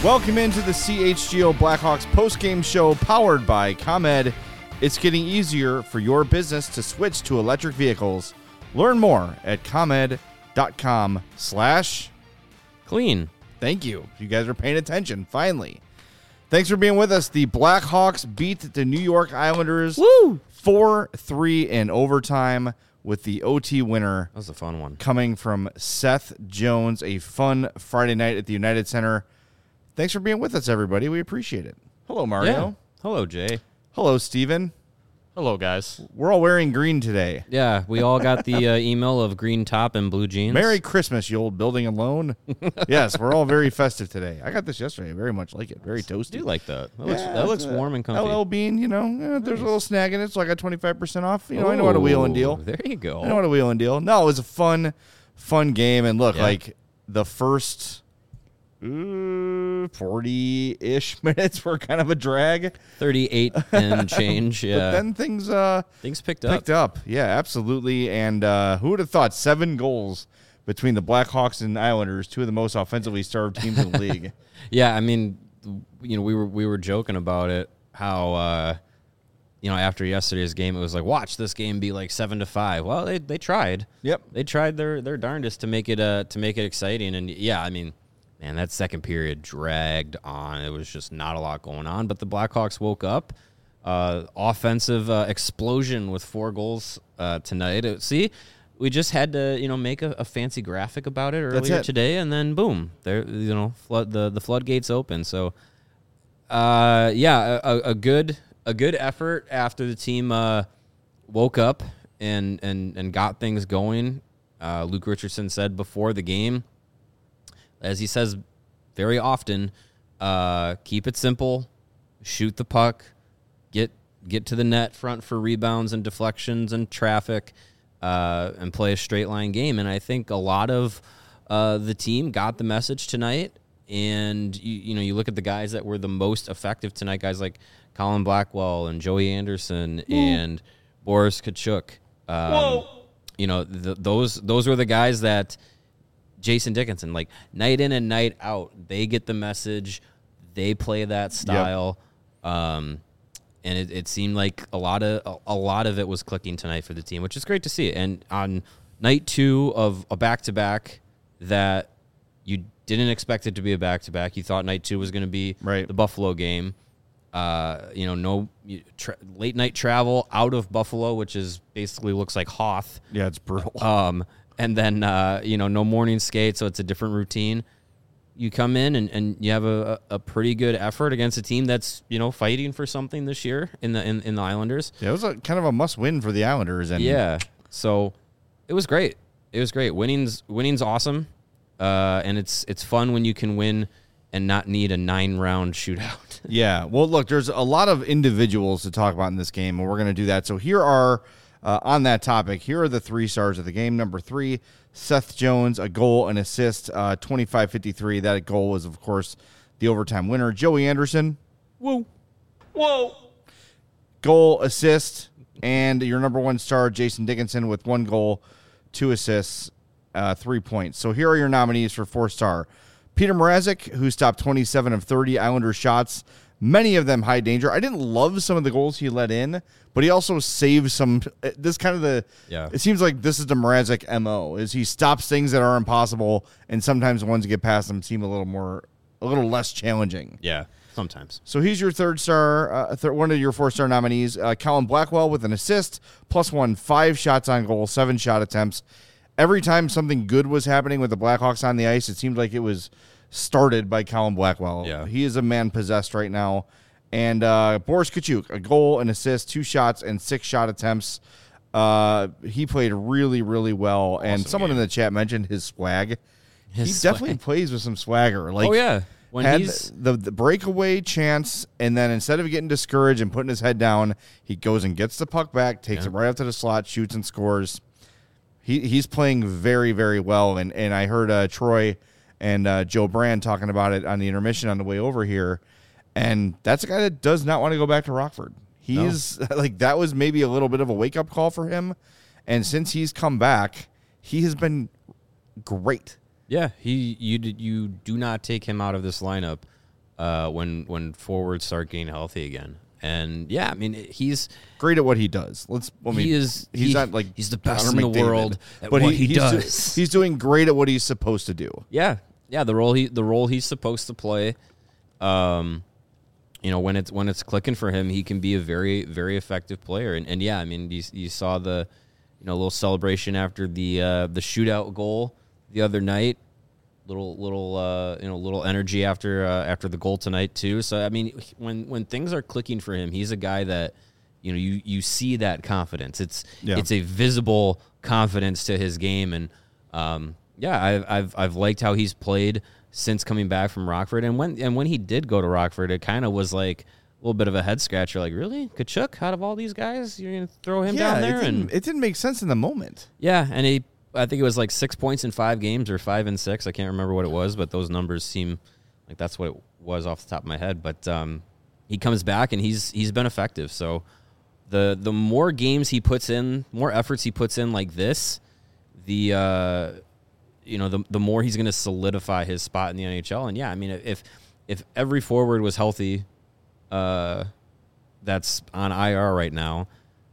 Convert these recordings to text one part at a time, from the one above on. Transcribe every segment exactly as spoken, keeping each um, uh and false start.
Welcome into the C H G O Blackhawks postgame show powered by ComEd. It's getting easier for your business to switch to electric vehicles. Learn more at ComEd.com slash clean. Thank you. You guys are paying attention, finally. Thanks for being with us. The Blackhawks beat the New York Islanders Woo! four three in overtime with the O T winner. That was a fun one. Coming from Seth Jones, a fun Friday night at the United Center. Thanks for being with us, everybody. We appreciate it. Hello, Mario. Yeah. Hello, Jay. Hello, Steven. Hello, guys. We're all wearing green today. Yeah, we all got the uh, email of green top and blue jeans. Merry Christmas, you old building and loan. Yes, we're all very festive today. I got this yesterday. I very much like it. Very toasty. I do like that. That looks, Yeah, that looks it's, warm and comfy. L L Bean, you know, eh, there's a little snag in it, so I got twenty-five percent off. You know, I know how to wheel and deal. Ooh, There you go. I know how to wheel and deal. No, it was a fun, fun game. And look, Yeah. like the first uh, forty-ish minutes were kind of a drag. thirty-eight and change. Yeah. But then things uh, Things picked up. picked up. Yeah, absolutely. And uh, who would have thought seven goals between the Blackhawks and Islanders, two of the most offensively starved teams in the league. Yeah, I mean, you know, we were we were joking about it, how uh, you know, after yesterday's game, it was like, watch this game be like seven to five. Well, they they tried. Yep. They tried their their darndest to make it uh to make it exciting. And yeah, I mean, man, that second period dragged on. It was just not a lot going on. But the Blackhawks woke up. Uh, offensive uh, explosion with four goals uh, tonight. Uh, see, we just had to, you know, make a, a fancy graphic about it earlier it. today, and then boom, there, you know, flood the the floodgates open. So, uh, yeah, a, a good a good effort after the team uh, woke up and and and got things going. Uh, Luke Richardson said before the game, as he says very often, uh, keep it simple, shoot the puck, get get to the net front for rebounds and deflections and traffic, uh, and play a straight line game. And I think a lot of uh, the team got the message tonight. And you, you know, you look at the guys that were the most effective tonight, guys like Colin Blackwell and Joey Anderson and Boris Kachuk. Um, Whoa. You know, th- those those were the guys that Jason Dickinson, like night in and night out, they get the message, they play that style, um, and it, it seemed like a lot of a, a lot of it was clicking tonight for the team, which is great to see. And on night two of a back to back that you didn't expect it to be a back to back, you thought night two was going to be Right. the Buffalo game. Uh, you know, no tra- late night travel out of Buffalo, which is basically looks like Hoth. Yeah, it's brutal. Um, and then, uh, you know, no morning skate, so it's a different routine. You come in and, and you have a, a pretty good effort against a team that's, you know, fighting for something this year in the in, in the Islanders. Yeah, it was a, kind of a must-win for the Islanders. And Yeah, so it was great. It was great. Winning's winning's awesome, uh, and it's it's fun when you can win and not need a nine-round shootout. Yeah. Well, look, there's a lot of individuals to talk about in this game, and we're going to do that. So here are, uh, on that topic, here are the three stars of the game. Number three, Seth Jones, a goal, an assist, uh, twenty-five fifty-three. That goal was, of course, the overtime winner. Joey Anderson, Whoa. Whoa. goal, assist, and your number one star, Jason Dickinson, with one goal, two assists, uh, three points. So here are your nominees for four-star. Peter Mrazek, who stopped twenty-seven of thirty Islanders shots, many of them high danger. I didn't love some of the goals he let in, but he also saved some. This kind of the, Yeah. it seems like this is the Mrazek M O, is he stops things that are impossible, and sometimes the ones that get past him seem a little more, a little less challenging. Yeah, sometimes. So he's your third star, uh, th- one of your four-star nominees. Uh, Colin Blackwell with an assist, plus one, five shots on goal, seven shot attempts. Every time something good was happening with the Blackhawks on the ice, it seemed like it was started by Colin Blackwell. Yeah. He is a man possessed right now. And uh, Boris Kachuk, a goal, an assist, two shots, and six shot attempts. Uh, he played really, really well. and Awesome someone game. in the chat mentioned his swag. His he swag. definitely plays with some swagger. Like, Oh, yeah. When had he's the, the breakaway chance, and then instead of getting discouraged and putting his head down, he goes and gets the puck back, takes Yeah. it right up to the slot, shoots and scores. He he's playing very, very well. And and I heard uh, Troy and uh, Joe Brand talking about it on the intermission on the way over here, and that's a guy that does not want to go back to Rockford. He's like, that was maybe a little bit of a wake up call for him, and since he's come back, he has been great. Yeah, he you did you do not take him out of this lineup uh, when when forwards start getting healthy again. And yeah, I mean he's great at what he does. Let's. I mean, he is he's he, not like he's the best Connor in the McDavid, world at but what he, he he's do- does. he's doing great at what he's supposed to do. Yeah, yeah, the role he the role he's supposed to play. Um, you know, when it's when it's clicking for him, he can be a very very effective player. And, and yeah, I mean, you, you saw the you know little celebration after the uh, the shootout goal the other night. Little little uh, you know little energy after uh, after the goal tonight too. So I mean, when when things are clicking for him, he's a guy that you know you you see that confidence. It's Yeah. it's a visible confidence to his game, and um, yeah, I've I've I've liked how he's played since coming back from Rockford. And when and when he did go to Rockford, it kind of was like a little bit of a head scratcher. Like, really, Tkachuk, out of all these guys, you're gonna throw him yeah, down there? it didn't, And it didn't make sense in the moment. yeah, and he. I think it was like six points in five games or five and six. I can't remember what it was, but those numbers seem like that's what it was off the top of my head. But um, he comes back and he's he's been effective. So the the more games he puts in, more efforts he puts in like this, the uh, you know the the more he's going to solidify his spot in the N H L. And yeah, I mean if if every forward was healthy, uh, that's on I R right now.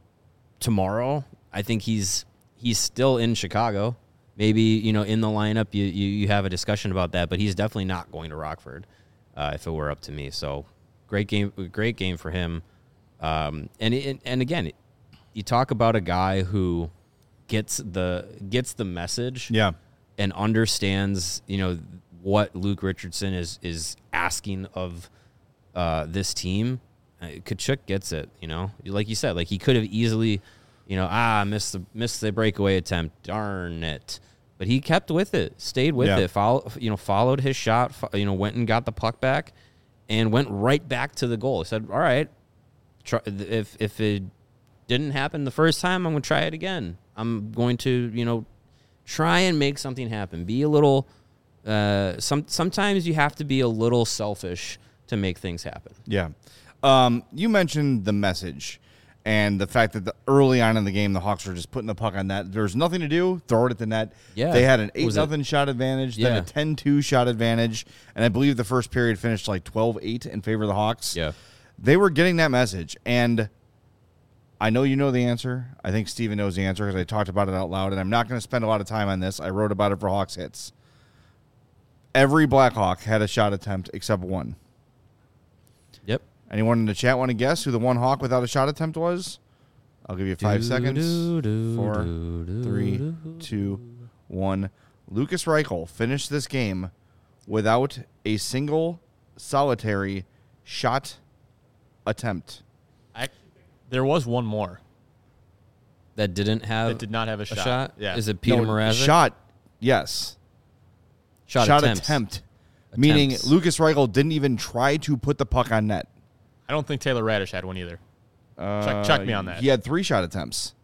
Tomorrow, I think he's. He's still in Chicago. Maybe, you know, in the lineup, you, you, you have a discussion about that, but he's definitely not going to Rockford uh, if it were up to me. So great game, great game for him. Um, and, it, and again, you talk about a guy who gets the gets the message Yeah. and understands, you know, what Luke Richardson is is asking of uh, this team. Uh, Tkachuk gets it, you know. Like you said, like he could have easily – You know, ah, missed the missed the breakaway attempt. Darn it! But he kept with it, stayed with Yeah. it. Follow, you know, followed his shot. Fo- you know, went and got the puck back, and went right back to the goal. He said, "All right, try, if if it didn't happen the first time, I'm going to try it again. I'm going to, you know, try and make something happen. Be a little. Uh, some sometimes you have to be a little selfish to make things happen. Yeah. Um, you mentioned the message and the fact that the, early on in the game, the Hawks were just putting the puck on net. There's nothing to do. Throw it at the net. Yeah. They had an eight Was it- nothing shot advantage, then Yeah. a ten two shot advantage. And I believe the first period finished like twelve eight in favor of the Hawks. Yeah. They were getting that message. And I know you know the answer. I think Steven knows the answer because I talked about it out loud. And I'm not going to spend a lot of time on this. I wrote about it for Hawks Hits. Every Blackhawk had a shot attempt except one. Yep. Anyone in the chat want to guess who the one Hawk without a shot attempt was? I'll give you five Do, seconds. do, do, Four, do, do, three, do. two, one. Lucas Reichel finished this game without a single solitary shot attempt. I, there was one more That didn't have that did not have a a shot. shot. Yeah. Is it Peter No, Mrazek? Shot, yes. Shot, Shot attempts. attempt. Meaning Attempts. Lucas Reichel didn't even try to put the puck on net. I don't think Taylor Radish had one either. Uh, Check- check me on that. He had three shot attempts.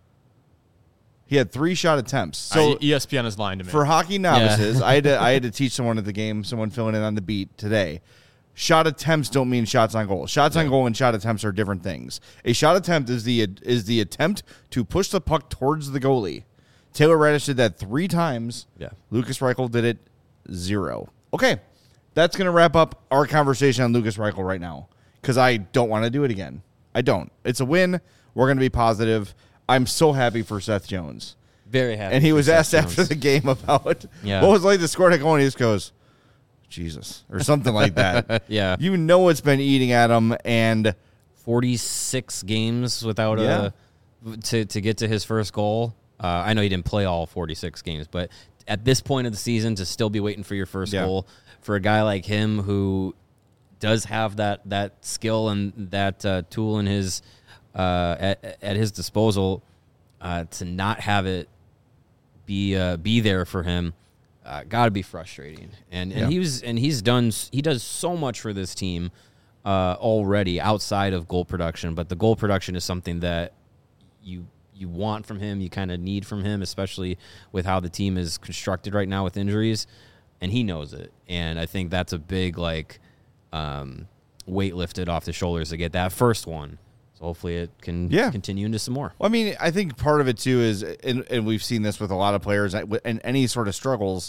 He had three shot attempts. So So E S P N is lying to me. for hockey novices, I had to I had to teach someone at the game, someone filling in on the beat today. Shot attempts don't mean shots on goal. Shots on goal and shot attempts are different things. A shot attempt is the is the attempt to push the puck towards the goalie. Taylor Radish did that three times. Yeah. Lucas Reichel did it zero. Okay, that's going to wrap up our conversation on Lucas Reichel right now because I don't want to do it again. I don't. It's a win. We're going to be positive. I'm so happy for Seth Jones. Very happy. And he for was Seth asked after Jones. the game about Yeah. what was it like to score that goal, and he just goes, Jesus, or something like that. Yeah. You know it's been eating at him, and forty-six games without Yeah. a to to get to his first goal. Uh, I know he didn't play all forty-six games, but at this point of the season, to still be waiting for your first Yeah. goal for a guy like him who does have that that skill and that uh, tool in his uh, at, at his disposal, uh, to not have it be uh, be there for him, uh, got to be frustrating. And and Yeah. he was and he's done he does so much for this team uh, already outside of goal production, but the goal production is something that you you want from him, you kind of need from him, especially with how the team is constructed right now with injuries, and he knows it. And I think that's a big like um, weight lifted off the shoulders to get that first one. So hopefully it can Yeah. continue into some more. well, I mean, I think part of it too is, and, and we've seen this with a lot of players, and any sort of struggles,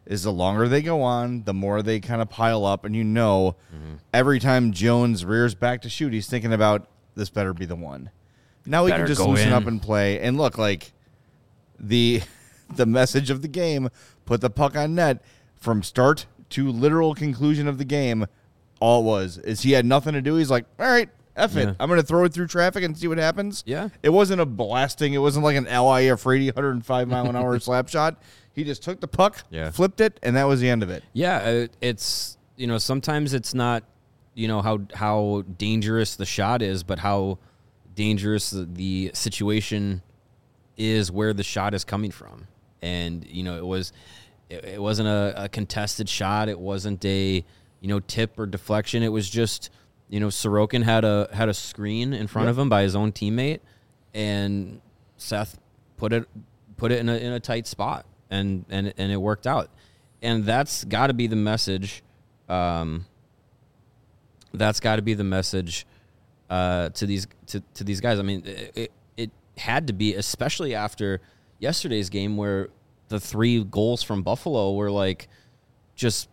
is the longer they go on, the more they kind of pile up. And you know, mm-hmm. every time Jones rears back to shoot, he's thinking about, this better be the one. Now he Better can just go loosen in. up and play. And look, like the the message of the game, put the puck on net from start to literal conclusion of the game. All it was is he had nothing to do. He's like, all right, F it. Yeah. I'm going to throw it through traffic and see what happens. Yeah. It wasn't a blasting. It wasn't like an L I Afridi one hundred five mile an hour slap shot. He just took the puck, Yeah. flipped it, and that was the end of it. Yeah, uh, it's, you know, sometimes it's not, you know, how how dangerous the shot is, but how dangerous the, the situation is where the shot is coming from. And, you know, it was it, it wasn't a, a contested shot. It wasn't a, you know, tip or deflection. It was just, you know, Sorokin had a had a screen in front Yep. of him by his own teammate, and Seth put it put it in a in a tight spot, and and and it worked out. And that's got to be the message. Um, that's got to be the message uh, to these to, to these guys. I mean, it, it it had to be, especially after yesterday's game where the three goals from Buffalo were like just,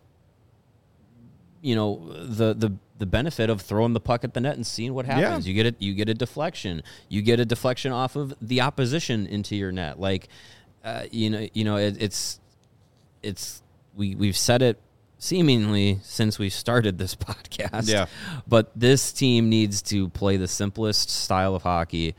you know, the the the benefit of throwing the puck at the net and seeing what happens. Yeah. You get it. You get a deflection. You get a deflection off of the opposition into your net. Like, uh, you know, you know, it, it's it's we we've said it seemingly since we started this podcast. Yeah. But this team needs to play the simplest style of hockey,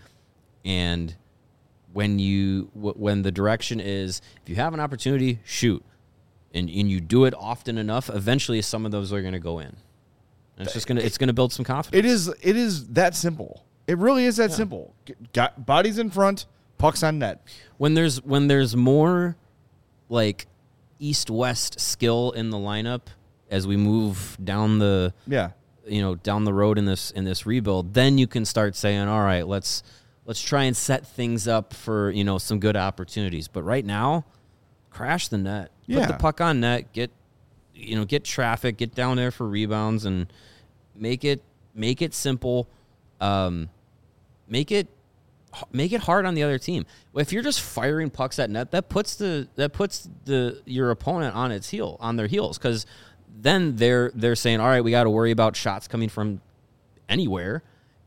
and when you w- when the direction is, if you have an opportunity, shoot. And, and you do it often enough, eventually some of those are going to go in. And it's just going to it's going to build some confidence. It is it is that simple. It really is that Yeah. simple. G- Got bodies in front, pucks on net. When there's when there's more like east-west skill in the lineup as we move down the Yeah. you know down the road in this in this rebuild, then you can start saying, all right, let's let's try and set things up for, you know, some good opportunities. But right now, crash the net. Put Yeah. the puck on net, get you know, get traffic, get down there for rebounds, and make it make it simple. Um, make it make it hard on the other team. If you're just firing pucks at net, that puts the that puts the your opponent on its heel on their heels, because then they're they're saying, all right, we got to worry about shots coming from anywhere,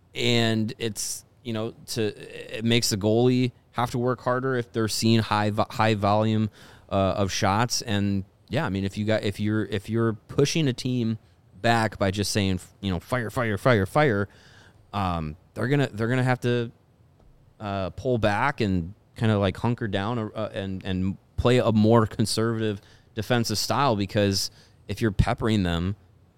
and it's, you know, to it makes the goalie have to work harder if they're seeing high vo- high volume uh, of shots. And yeah, I mean, if you got if you're if you're pushing a team back by just saying, you know, fire, fire, fire, fire, um, they're gonna they're gonna have to uh, pull back and kind of like hunker down uh, and and play a more conservative defensive style, because if you're peppering them,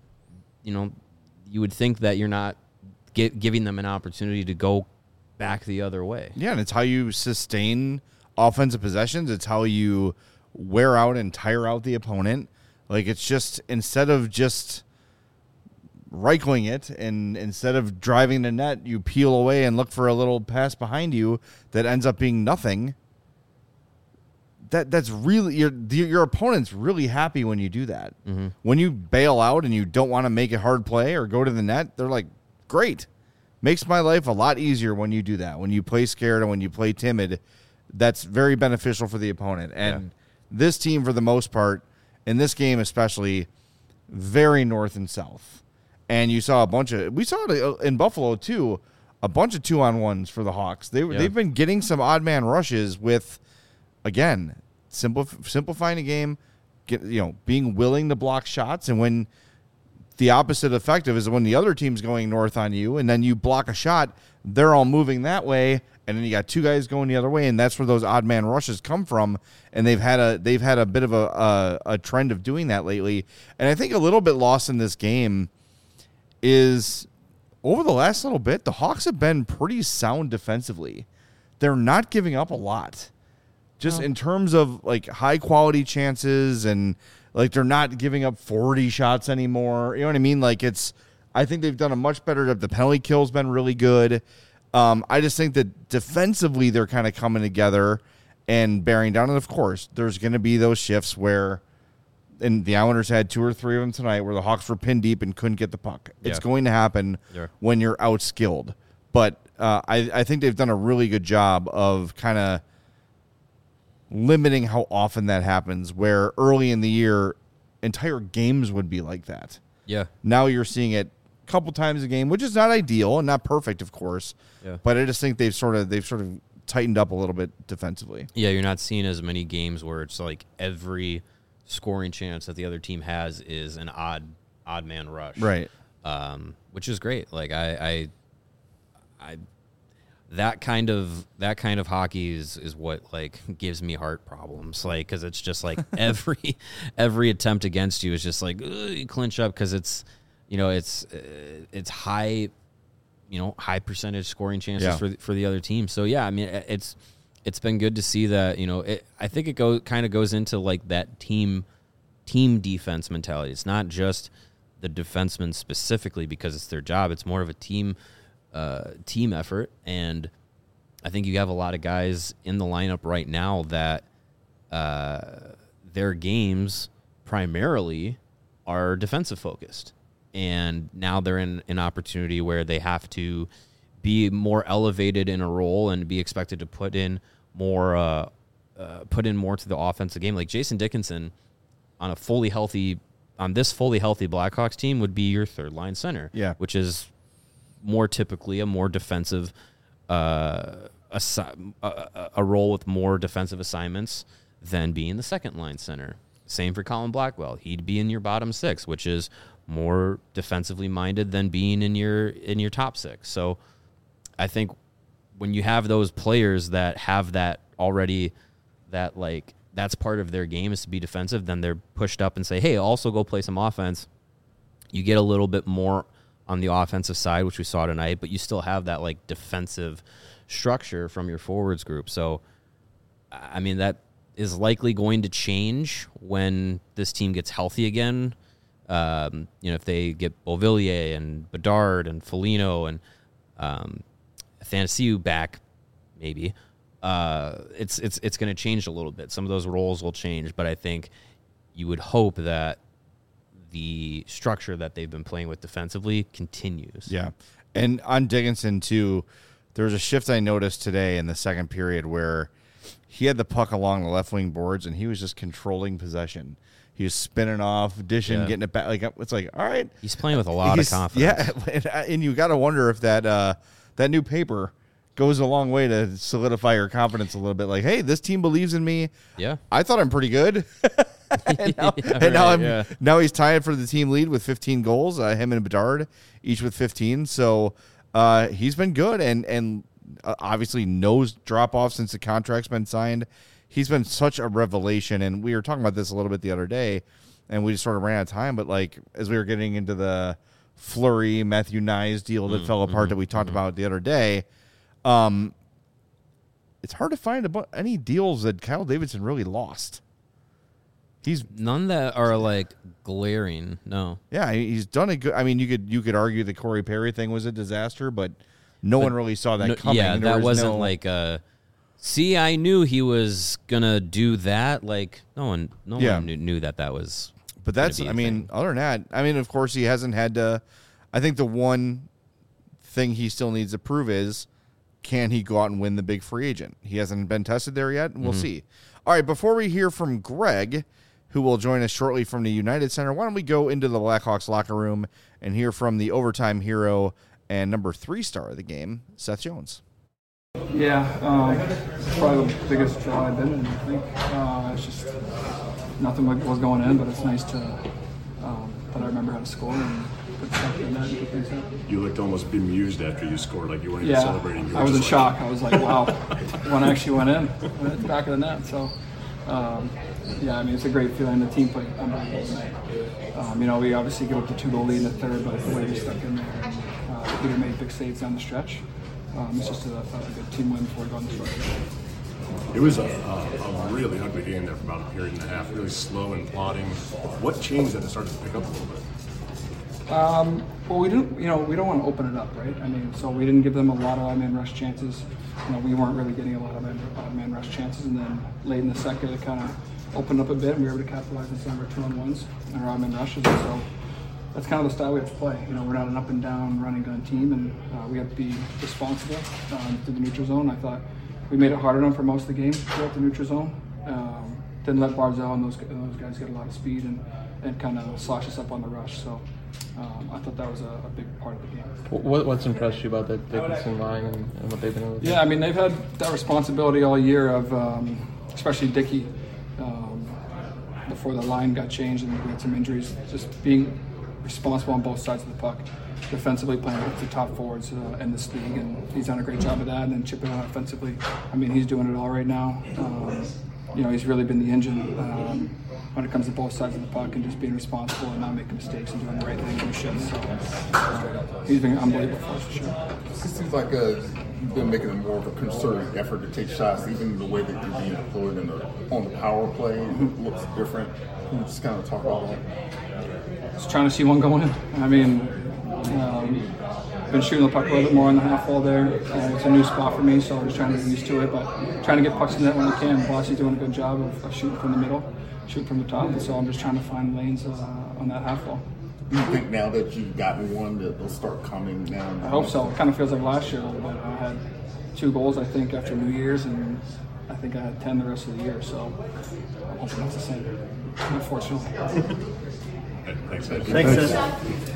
you know, you would think that you're not gi- giving them an opportunity to go back the other way. Yeah, and it's how you sustain offensive possessions. It's how you wear out and tire out the opponent. Like, it's just, instead of just rifling it and instead of driving the net, you peel away and look for a little pass behind you that ends up being nothing. That that's really your your opponent's really happy when you do that. Mm-hmm. When you bail out and you don't want to make a hard play or go to the net, they're like, great. Makes my life a lot easier when you do that. When you play scared and when you play timid, that's very beneficial for the opponent. And Yeah. this team, for the most part, in this game especially, very north and south. And you saw a bunch of, we saw it in Buffalo too, a bunch of two-on-ones for the Hawks. They, Yeah. They've been getting some odd man rushes with, again, simple, simplifying the game, get, you know, being willing to block shots. And when the opposite effective is when the other team's going north on you and then you block a shot, they're all moving that way, and then you got two guys going the other way, and that's where those odd man rushes come from. And they've had a they've had a bit of a, a, a trend of doing that lately. And I think a little bit lost in this game is over the last little bit, the Hawks have been pretty sound defensively. They're not giving up a lot. Just Oh. in terms of like high quality chances, and like they're not giving up forty shots anymore. You know what I mean? Like, it's, I think they've done a much better job. The penalty kill's been really good. Um, I just think that defensively they're kind of coming together and bearing down. And of course, there's going to be those shifts where, and the Islanders had two or three of them tonight, where the Hawks were pinned deep and couldn't get the puck. It's Yeah. going to happen Yeah. when you're outskilled. But uh, I, I think they've done a really good job of kind of limiting how often that happens, where early in the year, entire games would be like that. Yeah. Now you're seeing it a couple times a game, which is not ideal and not perfect, of course. Yeah. But I just think they've sort of they've sort of tightened up a little bit defensively. Yeah, you're not seeing as many games where it's like every scoring chance that the other team has is an odd odd man rush. Right. Um, which is great. Like I, I, I, that kind of that kind of hockey is, is what like gives me heart problems. Like because it's just like every every attempt against you is just like ugh, you clinch up because it's you know it's uh, it's high, you know high percentage scoring chances yeah. for the, for the other team. So yeah, I mean it's it's been good to see that. You know, it, I think it go kind of goes into like that team team defense mentality. It's not just the defensemen specifically because it's their job. It's more of a team uh, team effort, and I think you have a lot of guys in the lineup right now that uh, their games primarily are defensive focused, and now they're in an opportunity where they have to be more elevated in a role and be expected to put in more uh, uh, put in more to the offensive game. Like Jason Dickinson on a fully healthy on this fully healthy Blackhawks team would be your third line center, yeah, which is more typically a more defensive, uh, assi- a, a role with more defensive assignments than being the second line center. Same for Colin Blackwell; he'd be in your bottom six, which is more defensively minded than being in your in your top six. So, I think when you have those players that have that already, that like. That's part of their game is to be defensive, then they're pushed up and say, hey, also go play some offense. You get a little bit more on the offensive side, which we saw tonight, but you still have that like defensive structure from your forwards group. So, I mean, that is likely going to change when this team gets healthy again. Um, you know, if they get Beauvillier and Bedard and Foligno and um, Athanasiou back, maybe. Uh, it's it's it's going to change a little bit. Some of those roles will change, but I think you would hope that the structure that they've been playing with defensively continues. Yeah, and on Dickinson too, there was a shift I noticed today in the second period where he had the puck along the left wing boards and he was just controlling possession. He was spinning off, dishing, Yeah. getting it back. Like it's like, all right, He's playing with a lot He's- of confidence. Yeah, and, and you got to wonder if that uh, that new paper goes a long way to solidify your confidence a little bit. Like, hey, this team believes in me. Yeah. I thought I'm pretty good. and now, Yeah, and now, right, I'm, yeah. now he's tied for the team lead with fifteen goals. Uh, him and Bedard each with fifteen. So uh, he's been good, and and uh, obviously no drop off since the contract's been signed. He's been such a revelation, and we were talking about this a little bit the other day, and we just sort of ran out of time. But like as we were getting into the Fleury Matthew Nyes deal that Mm, fell apart mm-hmm, that we talked mm-hmm. about the other day. Um, it's hard to find about any deals that Kyle Davidson really lost. He's None that are like glaring. No. yeah, he's done a good. I mean, you could you could argue the Corey Perry thing was a disaster, but no one really saw that No, coming. yeah, There that was wasn't no- like a. See, I knew he was gonna do that. Like no one, no Yeah. one knew, knew that that was. But gonna that's, be a I mean, thing. other than that, I mean, of course, he hasn't had to. I think the one thing he still needs to prove is can he go out and win the big free agent? He hasn't been tested there yet, and we'll Mm-hmm. see. All right, before we hear from Greg, who will join us shortly from the United Center, why don't we go into the Blackhawks locker room and hear from the overtime hero and number three star of the game, Seth Jones. Yeah, um, it's probably the biggest draw I've been in, I think. Uh, it's just nothing was going in, but it's nice to um, that I remember how to score and put stuff in that and get things done. You looked almost bemused after you scored, like you weren't even Yeah, celebrating. You were I was in just like- shock. I was like, wow, one actually went in, went at the back of the net. So, um, yeah, I mean, it's a great feeling. The team played unbelievable tonight. Um, you know, we obviously give up the two-goal lead in the third, but the way we stuck in there, and, uh, Peter made big saves down the stretch. Um, it's just a, a good team win before we go on the stretch. It was a, a, a really ugly game there for about a period and a half, really slow and plodding. What changed that it started to pick up a little bit? Um, well, we didn't, you know, we don't want to open it up, right? I mean, so we didn't give them a lot of odd-man rush chances. You know, we weren't really getting a lot of odd-man rush chances, and then late in the second, it kind of opened up a bit, and we were able to capitalize on some of our two-on-ones and our odd-man rushes. And so that's kind of the style we have to play. You know, we're not an up-and-down running-gun team, and uh, we have to be responsible um, to the neutral zone. I thought we made it hard on them for most of the game throughout the neutral zone. Um, didn't let Barzell and those those guys get a lot of speed and, and kind of slosh us up on the rush. So um, I thought that was a, a big part of the game. What, what's impressed you about that Dickinson line and, and what they've been able to do? Yeah, I mean, they've had that responsibility all year of, um, especially Dickey, um, before the line got changed and we had some injuries, just being responsible on both sides of the puck. Defensively playing with the top forwards uh, in this league, and he's done a great job of that. And then chipping out offensively, I mean, he's doing it all right now. Um, you know, he's really been the engine um, when it comes to both sides of the puck and just being responsible and not making mistakes and doing the right thing in shifts. So uh, he's been unbelievable for us for sure. It seems like uh, you've been making a more of a concerted effort to take shots, even the way that you're being deployed in the, on the power play. It looks different. Can you just kind of talk about that? Just trying to see one going in. I mean. Um, been shooting the puck a little bit more on the half wall there. Uh, it's a new spot for me, so I'm just trying to get used to it. But trying to get pucks in the net when I can. Bossy's doing a good job of, of shooting from the middle, shooting from the top, and so I'm just trying to find lanes uh, on that half wall. Do you think now that you've gotten one that they'll start coming down? I hope so. It kind of feels like last year a little bit. I had two goals, I think, after New Year's, and I think I had ten the rest of the year. So I'm hoping that's the same, unfortunately. Thanks, Ed. Thanks, Seth.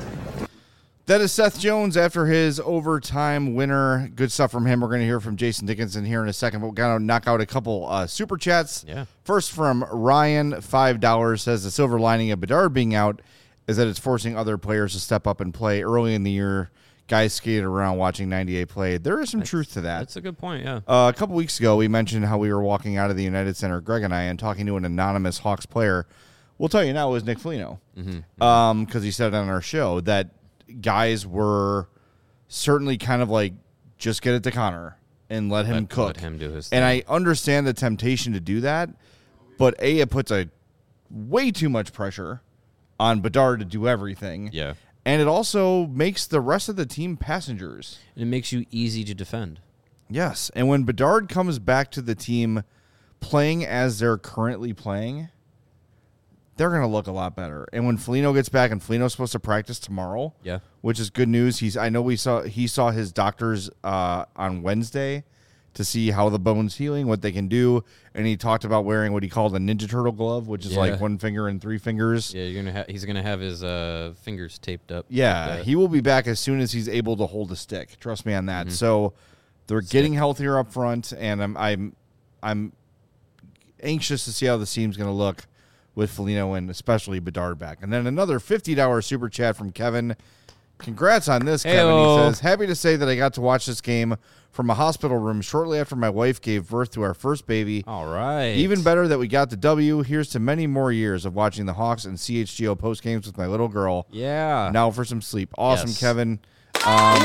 That is Seth Jones after his overtime winner. Good stuff from him. We're going to hear from Jason Dickinson here in a second, but we're going to knock out a couple uh, super chats. Yeah. First from Ryan, five dollars, says the silver lining of Bedard being out is that it's forcing other players to step up and play. Early in the year, guys skated around watching ninety-eight play. There is some That's, truth to that. That's a good point, yeah. Uh, a couple weeks ago, we mentioned how we were walking out of the United Center, Greg and I, and talking to an anonymous Hawks player. We'll tell you now, it was Nick Foligno. Because mm-hmm. um, he said it on our show that guys were certainly kind of like, just get it to Connor and let him let, cook. Let him do his thing. And I understand the temptation to do that, but A, it puts a way too much pressure on Bedard to do everything. Yeah. And it also makes the rest of the team passengers. And it makes you easy to defend. Yes. And when Bedard comes back to the team playing as they're currently playing, they're going to look a lot better. And when Foligno gets back, and Foligno's supposed to practice tomorrow, yeah, which is good news. He's I know we saw he saw his doctors uh, on Wednesday to see how the bone's healing, what they can do, and he talked about wearing what he called a Ninja Turtle glove, which is yeah. like one finger and three fingers. Yeah, you're gonna ha- he's gonna have his uh, fingers taped up. Yeah, like he will be back as soon as he's able to hold a stick. Trust me on that. Mm-hmm. So they're stick. getting healthier up front, and I'm I'm I'm anxious to see how the team's going to look with Foligno and especially Bedard back. And then another fifty dollars super chat from Kevin. Congrats on this, Kevin. Hey-o. He says, happy to say that I got to watch this game from a hospital room shortly after my wife gave birth to our first baby. All right. Even better that we got the W. Here's to many more years of watching the Hawks and C H G O post games with my little girl. Yeah. Now for some sleep. Awesome, Yes. Kevin. Um,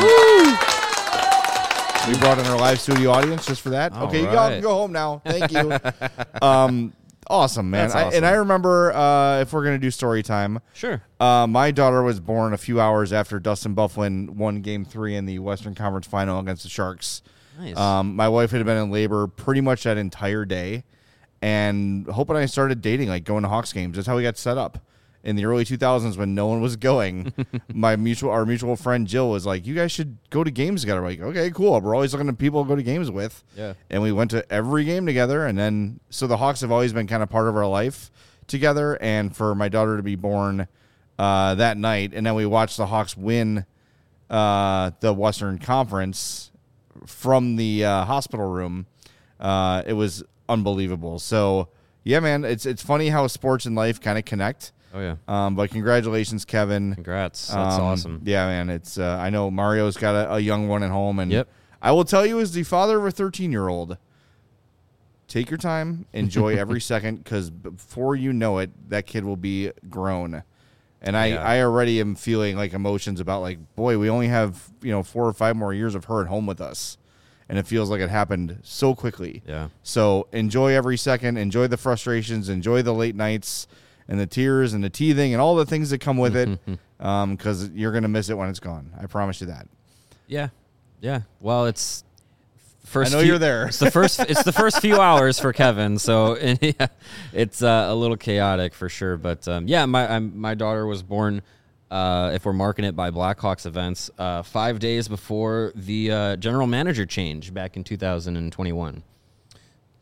we brought in our live studio audience just for that. All okay, you right. can go home now. Thank you. um, awesome, man. That's I, awesome. and I remember uh, if we're going to do story time, Sure. uh, my daughter was born a few hours after Dustin Byfuglien won game three in the Western Conference final against the Sharks. Nice. Um, my wife had been in labor pretty much that entire day, and Hope and I started dating, like going to Hawks games. That's how we got set up. In the early two thousands, when no one was going, my mutual, our mutual friend Jill was like, "You guys should go to games together." We're like, okay, cool. We're always looking at people to go to games with. Yeah. And we went to every game together, and then so the Hawks have always been kind of part of our life together. And for my daughter to be born uh, that night, and then we watched the Hawks win uh, the Western Conference from the uh, hospital room. Uh, it was unbelievable. So yeah, man, it's it's funny how sports and life kind of connect. Oh yeah. Um, but congratulations, Kevin. Congrats. That's Um, awesome. Yeah, man. It's uh, I know Mario's got a, a young one at home, and Yep. I will tell you, as the father of a thirteen-year-old, take your time, enjoy every second, because before you know it, that kid will be grown. And I, Yeah. I already am feeling like emotions about like, boy, we only have you know four or five more years of her at home with us, and it feels like it happened so quickly. Yeah. So enjoy every second, enjoy the frustrations, enjoy the late nights and the tears and the teething and all the things that come with it, because um, you're going to miss it when it's gone. I promise you that. Yeah. Yeah. Well, it's first. I know few- you're there. It's the first. It's the first few hours for Kevin, so and, yeah, it's uh, a little chaotic for sure. But um, yeah, my I'm, my daughter was born. Uh, if we're marking it by Blackhawks events, uh, five days before the uh, general manager change back in two thousand twenty-one.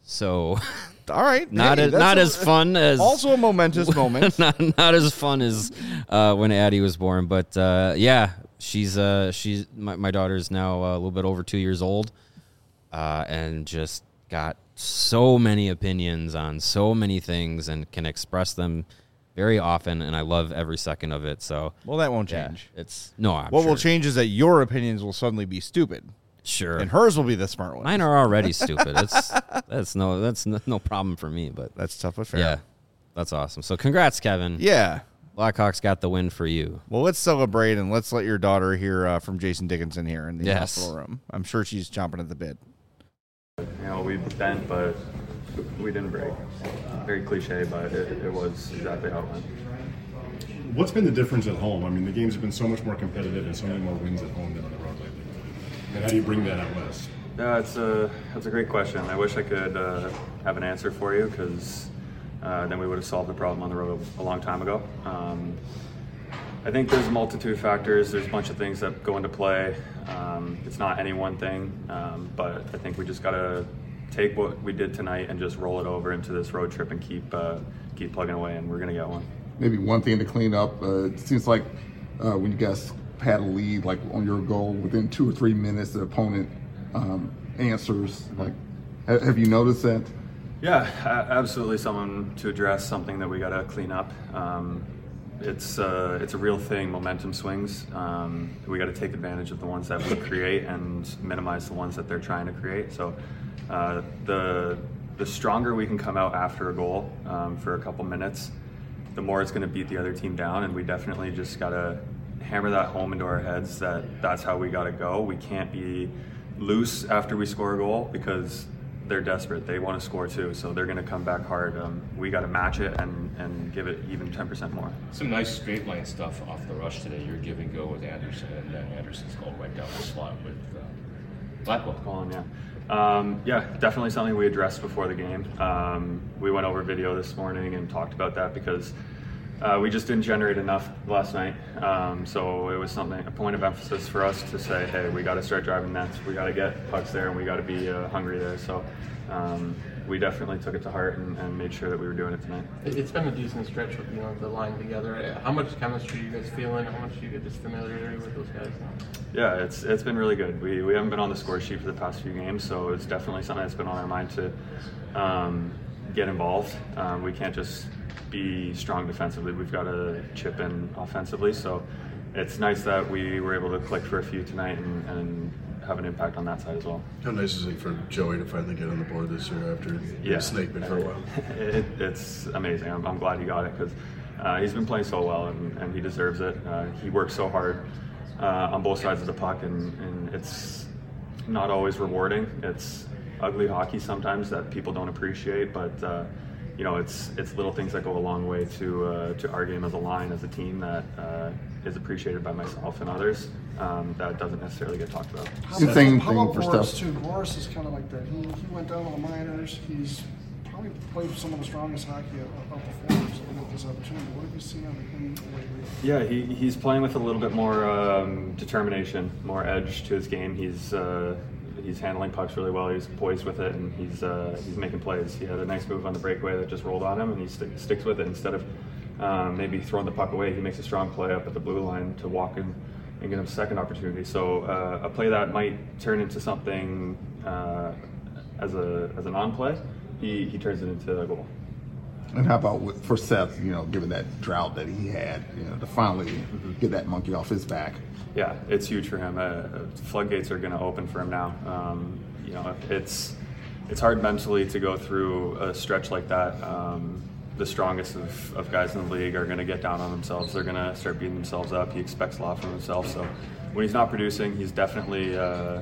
So, all right, not hey, as, not a, as fun as also a momentous moment. Not not as fun as uh, when Addie was born, but uh, yeah, she's uh, she's my, my daughter's now a little bit over two years old, uh, and just got so many opinions on so many things and can express them very often, and I love every second of it. So, well, that won't yeah, change. It's no. I'm what sure. will change is that your opinions will suddenly be stupid. Sure. And hers will be the smart one. Mine are already stupid. It's that's no that's no, no problem for me. But that's tough but fair. Yeah, that's awesome. So congrats, Kevin. Yeah, Blackhawks got the win for you. Well, let's celebrate and let's let your daughter hear uh, from Jason Dickinson here in the yes. hospital room. I'm sure she's chomping at the bit. You know, we bent, but we didn't break. Very cliche, but it, it was exactly how it went. What's been the difference at home? I mean, the games have been so much more competitive and so many more wins at home than on the road lately. And how do you bring that out west? Yeah, it's a that's a great question. I wish I could uh, have an answer for you, because uh, then we would have solved the problem on the road a long time ago. Um, I think there's a multitude of factors. There's a bunch of things that go into play. Um, it's not any one thing, um, but I think we just got to take what we did tonight and just roll it over into this road trip and keep uh, keep plugging away, and we're going to get one. Maybe one thing to clean up, uh, it seems like uh, when you guys had a lead, like on your goal, within two or three minutes, the opponent um, answers. Like, have you noticed that? Yeah, absolutely. Someone to address, something that we got to clean up. Um, it's uh, it's a real thing. Momentum swings. Um, we got to take advantage of the ones that we create and minimize the ones that they're trying to create. So uh, the the stronger we can come out after a goal um, for a couple minutes, the more it's going to beat the other team down. And we definitely just got to hammer that home into our heads that that's how we got to go. We can't be loose after we score a goal, because they're desperate. They want to score too, so they're going to come back hard. Um, we got to match it and, and give it even ten percent more. Some nice straight line stuff off the rush today. Your give and go with Anderson, and then Anderson's goal right down the slot with uh, Blackwell. Colin, yeah. Um, yeah, definitely something we addressed before the game. Um, we went over video this morning and talked about that, because uh, we just didn't generate enough last night. Um, so it was something, a point of emphasis for us to say, hey, we got to start driving nets. We got to get pucks there, and we got to be uh, hungry there. So um, we definitely took it to heart and, and made sure that we were doing it tonight. It's been a decent stretch with, you know, the line together. How much chemistry are you guys feeling? How much do you get this familiarity with those guys now? Yeah, it's it's been really good. We we haven't been on the score sheet for the past few games, so it's definitely something that's been on our mind to um, get involved. Um, we can't just be strong defensively. We've got to chip in offensively. So it's nice that we were able to click for a few tonight and, and have an impact on that side as well. How nice is it for Joey to finally get on the board this year after yeah. snake bit for a while? It, it's amazing. I'm, I'm glad he got it, because uh, he's been playing so well, and, and he deserves it. Uh, he works so hard uh, on both sides of the puck, and, and it's not always rewarding. It's ugly hockey sometimes that people don't appreciate, but uh, you know, it's it's little things that go a long way to uh, to our game as a line, as a team, that uh, is appreciated by myself and others. Um, that doesn't necessarily get talked about. How about, Same how thing about for Boris stuff. too? Boris is kind of like that. He, he went down to the minors. He's probably played some of the strongest hockey of, of the forwards with this opportunity. What have you seen on him lately? Yeah, he, he's playing with a little bit more um, determination, more edge to his game. He's uh, he's handling pucks really well. He's poised with it, and he's uh, he's making plays. He had a nice move on the breakaway that just rolled on him, and he st- sticks with it instead of um, maybe throwing the puck away. He makes a strong play up at the blue line to walk in and get him a second opportunity. So uh, a play that might turn into something uh, as a as a non-play, he he turns it into a goal. And how about with, for Seth, you know, given that drought that he had, you know, to finally mm-hmm. get that monkey off his back? Yeah, it's huge for him. Uh, floodgates are going to open for him now. Um, you know, it's it's hard mentally to go through a stretch like that. Um, the strongest of, of guys in the league are going to get down on themselves. They're going to start beating themselves up. He expects a lot from himself. So when he's not producing, he's definitely uh, uh,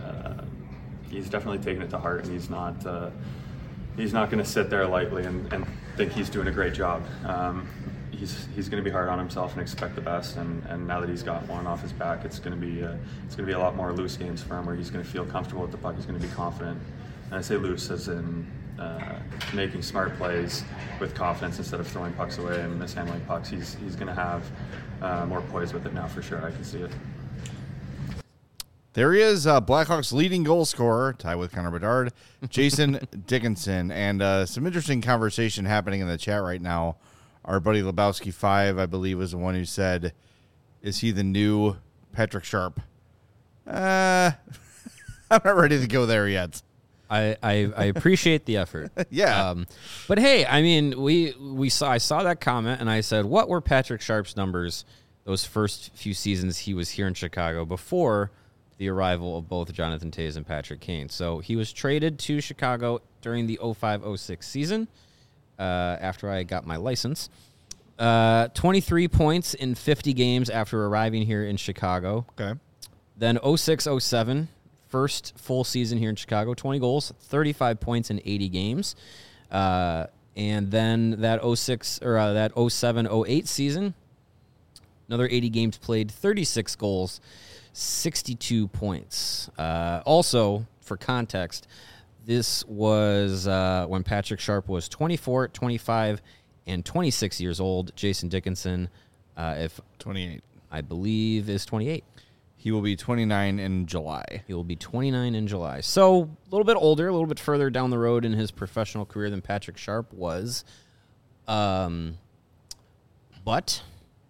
he's definitely taking it to heart, and he's not uh, he's not going to sit there lightly and, and think he's doing a great job. Um, he's he's going to be hard on himself and expect the best. And, and now that he's got one off his back, it's going to be uh, it's going to be a lot more loose games for him, where he's going to feel comfortable with the puck. He's going to be confident. And I say loose as in uh, making smart plays with confidence instead of throwing pucks away and mishandling pucks. He's he's going to have uh, more poise with it now for sure. I can see it. There he is, uh, Blackhawks leading goal scorer, tied with Connor Bedard, Jason Dickinson. And uh, some interesting conversation happening in the chat right now. Our buddy Lebowski five, I believe, was the one who said, is he the new Patrick Sharp? Uh, I'm not ready to go there yet. I, I, I appreciate the effort. Yeah. Um, but hey, I mean, we we saw I saw that comment and I said, what were Patrick Sharp's numbers those first few seasons he was here in Chicago before the arrival of both Jonathan Toews and Patrick Kane? So he was traded to Chicago during the oh five oh six season uh, after I got my license. Uh, twenty-three points in fifty games after arriving here in Chicago. Okay. Then oh six oh seven. First full season here in Chicago, twenty goals, thirty-five points in eighty games. Uh, and then that oh six or uh, that oh seven oh eight season, another eighty games played, thirty-six goals, sixty-two points. Uh, also, for context, this was uh, when Patrick Sharp was twenty-four, twenty-five, and twenty-six years old. Jason Dickinson, uh, if twenty-eight, I believe, is twenty-eight. He will be twenty-nine in July. He will be twenty-nine in July. So a little bit older, a little bit further down the road in his professional career than Patrick Sharp was. Um, but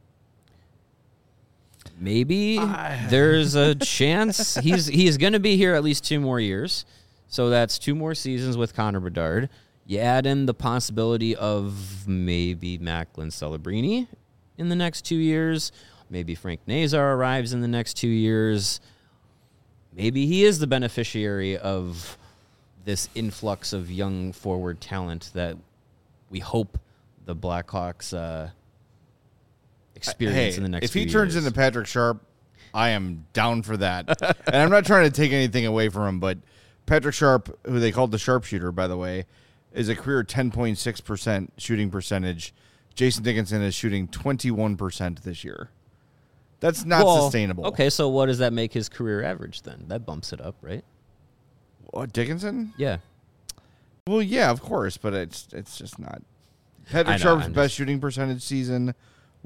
maybe I... there's a chance he's he's going to be here at least two more years. So that's two more seasons with Connor Bedard. You add in the possibility of maybe Macklin Celebrini in the next two years. Maybe Frank Nazar arrives in the next two years. Maybe he is the beneficiary of this influx of young forward talent that we hope the Blackhawks uh, experience hey, in the next if few he turns years. into Patrick Sharp, I am down for that. And I'm not trying to take anything away from him, but Patrick Sharp, who they called the sharpshooter, by the way, is a career ten point six percent shooting percentage. Jason Dickinson is shooting twenty-one percent this year. That's not well, sustainable. Okay, so what does that make his career average then? That bumps it up, right? What, Dickinson? Yeah. Well, yeah, of course, but it's it's just not. Patrick know, Sharp's I'm best just... shooting percentage season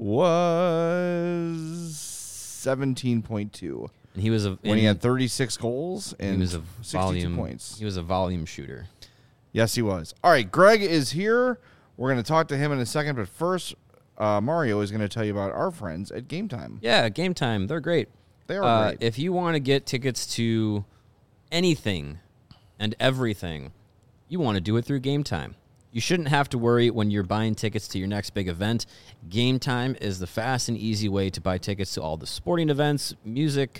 was seventeen point two. And he was a when he had thirty-six goals and he was a sixty-two volume, points. He was a volume shooter. Yes, he was. All right, Greg is here. We're going to talk to him in a second, but first, uh, Mario is going to tell you about our friends at Game Time. Yeah, Game Time. They're great. They are uh, great. If you want to get tickets to anything and everything, you want to do it through Game Time. You shouldn't have to worry when you're buying tickets to your next big event. Game Time is the fast and easy way to buy tickets to all the sporting events, music,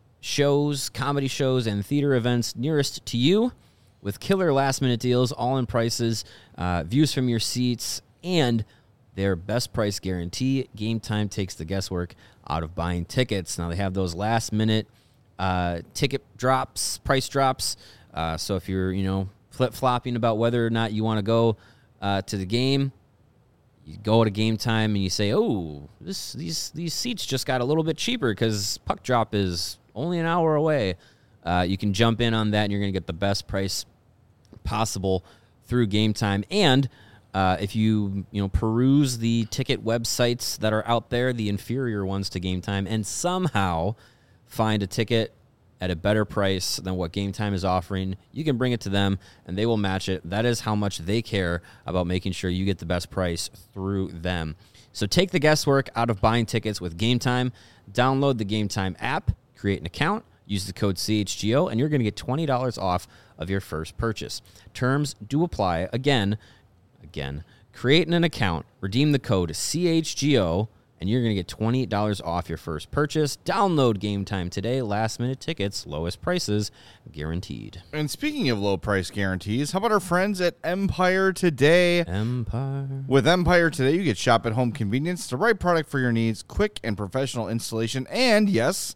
shows, comedy shows, and theater events nearest to you with killer last-minute deals, all-in prices, uh, views from your seats, and their best price guarantee. Game Time takes the guesswork out of buying tickets. Now, they have those last-minute uh, ticket drops, price drops. Uh, so if you're, you know, flip-flopping about whether or not you want to go uh, to the game, you go to Game Time and you say, oh, this these these seats just got a little bit cheaper because puck drop is only an hour away. Uh, you can jump in on that, and you're going to get the best price possible through Game Time. And uh, if you you know peruse the ticket websites that are out there, the inferior ones to Game Time, and somehow find a ticket at a better price than what Game Time is offering, you can bring it to them, and they will match it. That is how much they care about making sure you get the best price through them. So take the guesswork out of buying tickets with Game Time. Download the Game Time app, create an account, use the code C H G O, and you're going to get twenty dollars off of your first purchase. Terms do apply. Again, again, create an account, redeem the code C H G O, and you're going to get twenty dollars off your first purchase. Download Game Time today. Last-minute tickets, lowest prices, guaranteed. And speaking of low price guarantees, how about our friends at Empire Today? Empire. With Empire Today, you get shop at home convenience, the right product for your needs, quick and professional installation, and yes,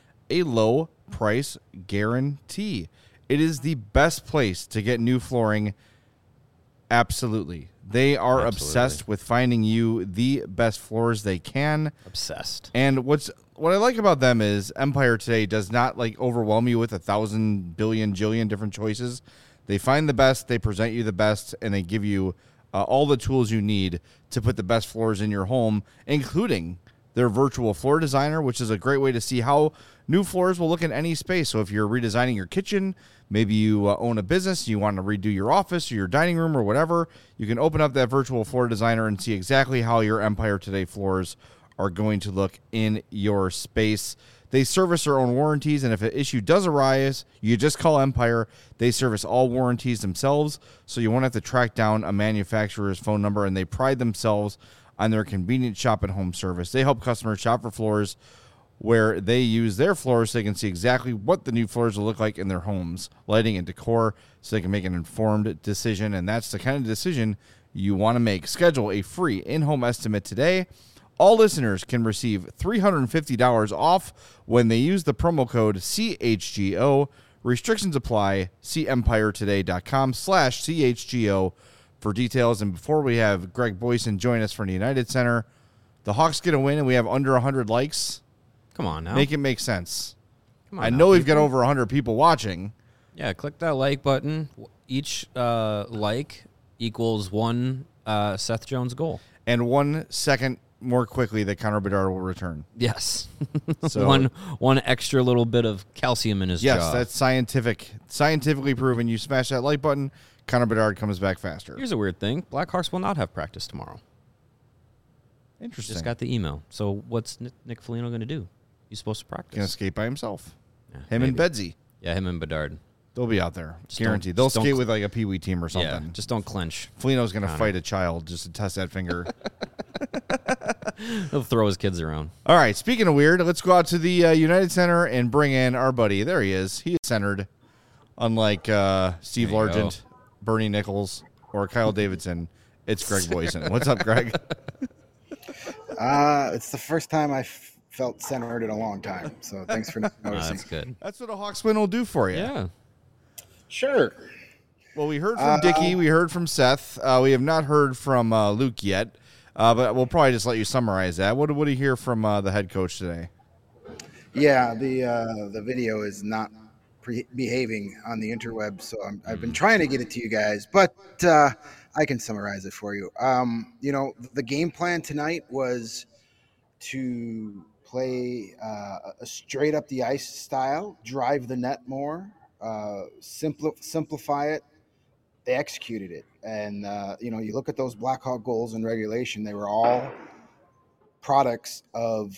a low price guarantee. It is the best place to get new flooring. Absolutely. They are Absolutely. obsessed with finding you the best floors they can. Obsessed. And what's what I like about them is Empire Today does not like overwhelm you with a thousand billion jillion different choices. They find the best, they present you the best, and they give you uh, all the tools you need to put the best floors in your home, including their virtual floor designer, which is a great way to see how new floors will look in any space. So if you're redesigning your kitchen, maybe you uh, own a business, you want to redo your office or your dining room or whatever, you can open up that virtual floor designer and see exactly how your Empire Today floors are going to look in your space. They service their own warranties, and if an issue does arise, you just call Empire. They service all warranties themselves, so you won't have to track down a manufacturer's phone number, and they pride themselves on their convenient shop and home service. They help customers shop for floors where they use their floors so they can see exactly what the new floors will look like in their homes, lighting and decor, so they can make an informed decision, and that's the kind of decision you want to make. Schedule a free in-home estimate today. All listeners can receive three hundred fifty dollars off when they use the promo code C H G O. Restrictions apply. See empiretoday.com slash CHGO for details. And before we have Greg Boysen join us from the United Center, the Hawks get a win and we have under one hundred likes. Come on now. Make it make sense. Come on I now, know we've people. got over one hundred people watching. Yeah, click that like button. Each uh, like equals one uh, Seth Jones goal. And one second more quickly that Connor Bedard will return. Yes. So one one extra little bit of calcium in his yes, jaw. that's scientific, scientifically proven. You smash that like button, Connor Bedard comes back faster. Here's a weird thing. Blackhawks will not have practice tomorrow. Interesting. Just got the email. So what's Nick, Nick Foligno going to do? He's supposed to practice. Gonna skate by himself. Yeah, him maybe. and Bedsy. Yeah, him and Bedard. They'll be out there. Just Guaranteed. don't- They'll just don't skate cl- with like a peewee team or something. Yeah, just don't clench. Foligno's going to Connor. fight a child just to test that finger. He'll throw his kids around. All right, speaking of weird, let's go out to the uh, United Center and bring in our buddy. There he is. He is centered, unlike uh, Steve There you Largent, Bernie Nichols, or Kyle Davidson. It's Greg Boysen. What's up, Greg? Uh, it's the first time I've felt centered in a long time. So thanks for noticing. Oh, that's good. That's what a Hawks win will do for you. Yeah. Sure. Well, we heard from Uh, Dickie. We heard from Seth. Uh, we have not heard from uh, Luke yet, uh, but we'll probably just let you summarize that. What, what do you hear from uh, the head coach today? Yeah, the uh, the video is not pre- behaving on the interweb, so I'm, I've been trying to get it to you guys, but uh, I can summarize it for you. Um, you know, the game plan tonight was to play uh, a straight up the ice style, drive the net more, uh, simpli- simplify it. They executed it, and uh, you know, you look at those Blackhawk goals in regulation; they were all products of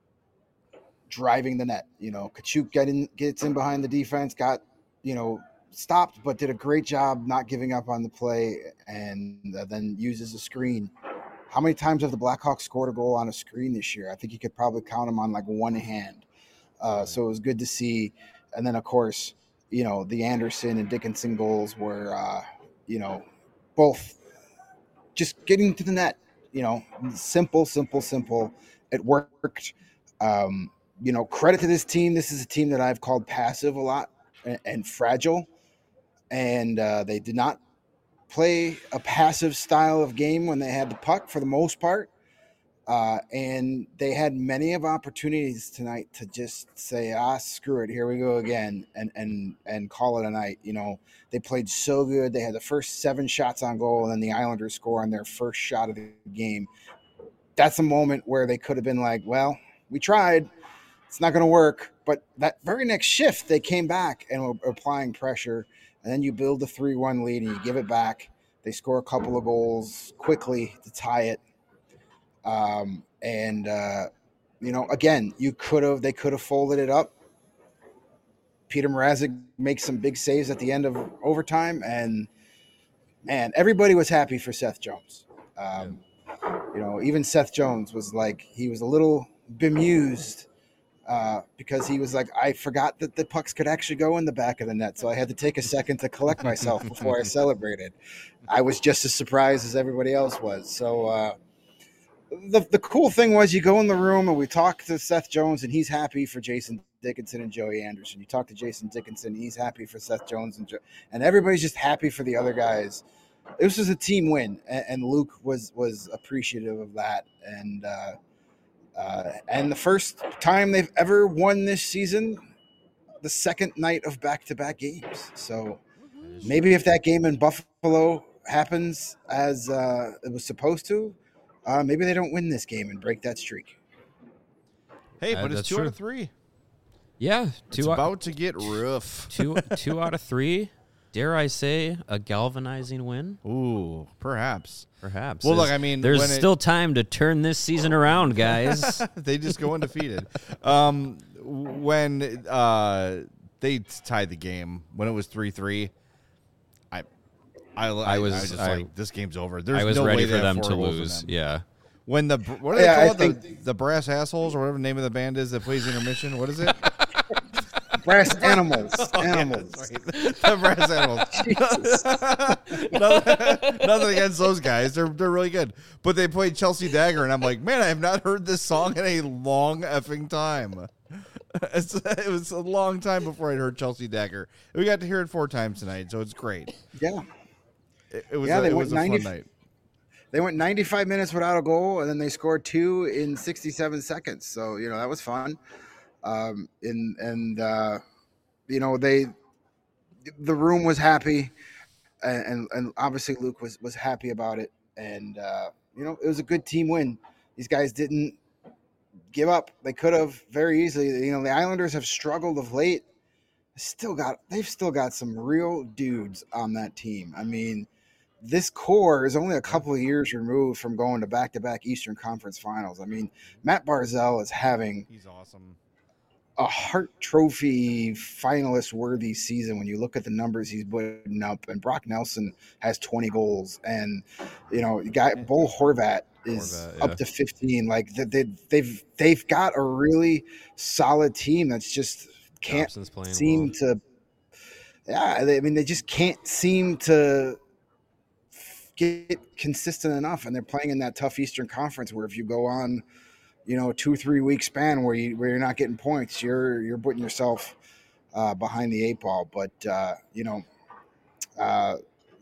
driving the net. You know, Kachuk get in, gets in behind the defense, got, you know, stopped, but did a great job not giving up on the play, and uh, then uses a screen. How many times have the Blackhawks scored a goal on a screen this year? I think you could probably count them on like one hand. Uh, so it was good to see. And then, of course, you know, the Anderson and Dickinson goals were, uh, you know, both just getting to the net, you know, simple, simple, simple. It worked. Um, you know, credit to this team. This is a team that I've called passive a lot and, and fragile. And uh, they did not play a passive style of game when they had the puck for the most part. Uh, and they had many of opportunities tonight to just say, ah, screw it, here we go again, and and and call it a night. You know, they played so good. They had the first seven shots on goal, and then the Islanders score on their first shot of the game. That's a moment where they could have been like, well, we tried. It's not going to work. But that very next shift, they came back and were applying pressure. And then you build a three one lead and you give it back. They score a couple of goals quickly to tie it. Um, and, uh, you know, again, you could have, they could have folded it up. Peter Mrazek makes some big saves at the end of overtime. And, man, everybody was happy for Seth Jones. Um, you know, even Seth Jones was like, he was a little bemused uh, because he was like, I forgot that the pucks could actually go in the back of the net. So I had to take a second to collect myself before I celebrated. I was just as surprised as everybody else was. So, uh, The the cool thing was you go in the room and we talk to Seth Jones and he's happy for Jason Dickinson and Joey Anderson. You talk to Jason Dickinson, he's happy for Seth Jones and jo- and everybody's just happy for the other guys. This was a team win, and, and Luke was was appreciative of that. And uh, uh, and the first time they've ever won this season, the second night of back-to-back games. So maybe if that game in Buffalo happens as uh, it was supposed to, Uh, maybe they don't win this game and break that streak. Hey, Uh, but it's that's two true. out of three. Yeah, It's two out, about to get rough. two two out of three. Dare I say a galvanizing win? Ooh, perhaps. Perhaps. Well, look, There's- I mean, there's when it- still time to turn this season around, guys. They just go undefeated. um, when uh, they tied the game, when it was three three, I, I, I, I was- I was just I- like, this game's over. There's I was no ready way for they have them four to goals in lose. them. Yeah. When the what do they Yeah, I call it? The, think- the brass assholes or whatever the name of the band is that plays intermission. What is it? Brass animals. Oh, yeah, Animals. that's right. The brass animals. nothing, nothing against those guys. They're they're really good. But they played Chelsea Dagger, and I'm like, man, I have not heard this song in a long effing time. It's, it was a long time before I'd heard Chelsea Dagger. We got to hear it four times tonight, so it's great. Yeah. It, it was Yeah, a, they it went was a ninety fun night. They went ninety-five minutes without a goal, and then they scored two in sixty-seven seconds. So, you know, that was fun. Um, and, and uh, you know, they, the room was happy, and, and, and obviously Luke was, was happy about it. And, uh, you know, it was a good team win. These guys didn't give up. They could have very easily. You know, the Islanders have struggled of late. Still got, they've still got some real dudes on that team. I mean, this core is only a couple of years removed from going to back-to-back Eastern Conference Finals. I mean, Matt Barzal is having He's awesome. a Hart Trophy finalist-worthy season when you look at the numbers he's putting up. And Brock Nelson has twenty goals, and you know, guy Bo Horvat is Horvat, yeah. up to fifteen. Like they, they, they've they've got a really solid team that's just can't Thompson's playing seem well. to. Yeah, they, I mean, they just can't seem to get consistent enough, and they're playing in that tough Eastern Conference where if you go on, you know, a two three week span where you where you're not getting points, you're you're putting yourself uh, behind the eight ball. But uh, you know, uh,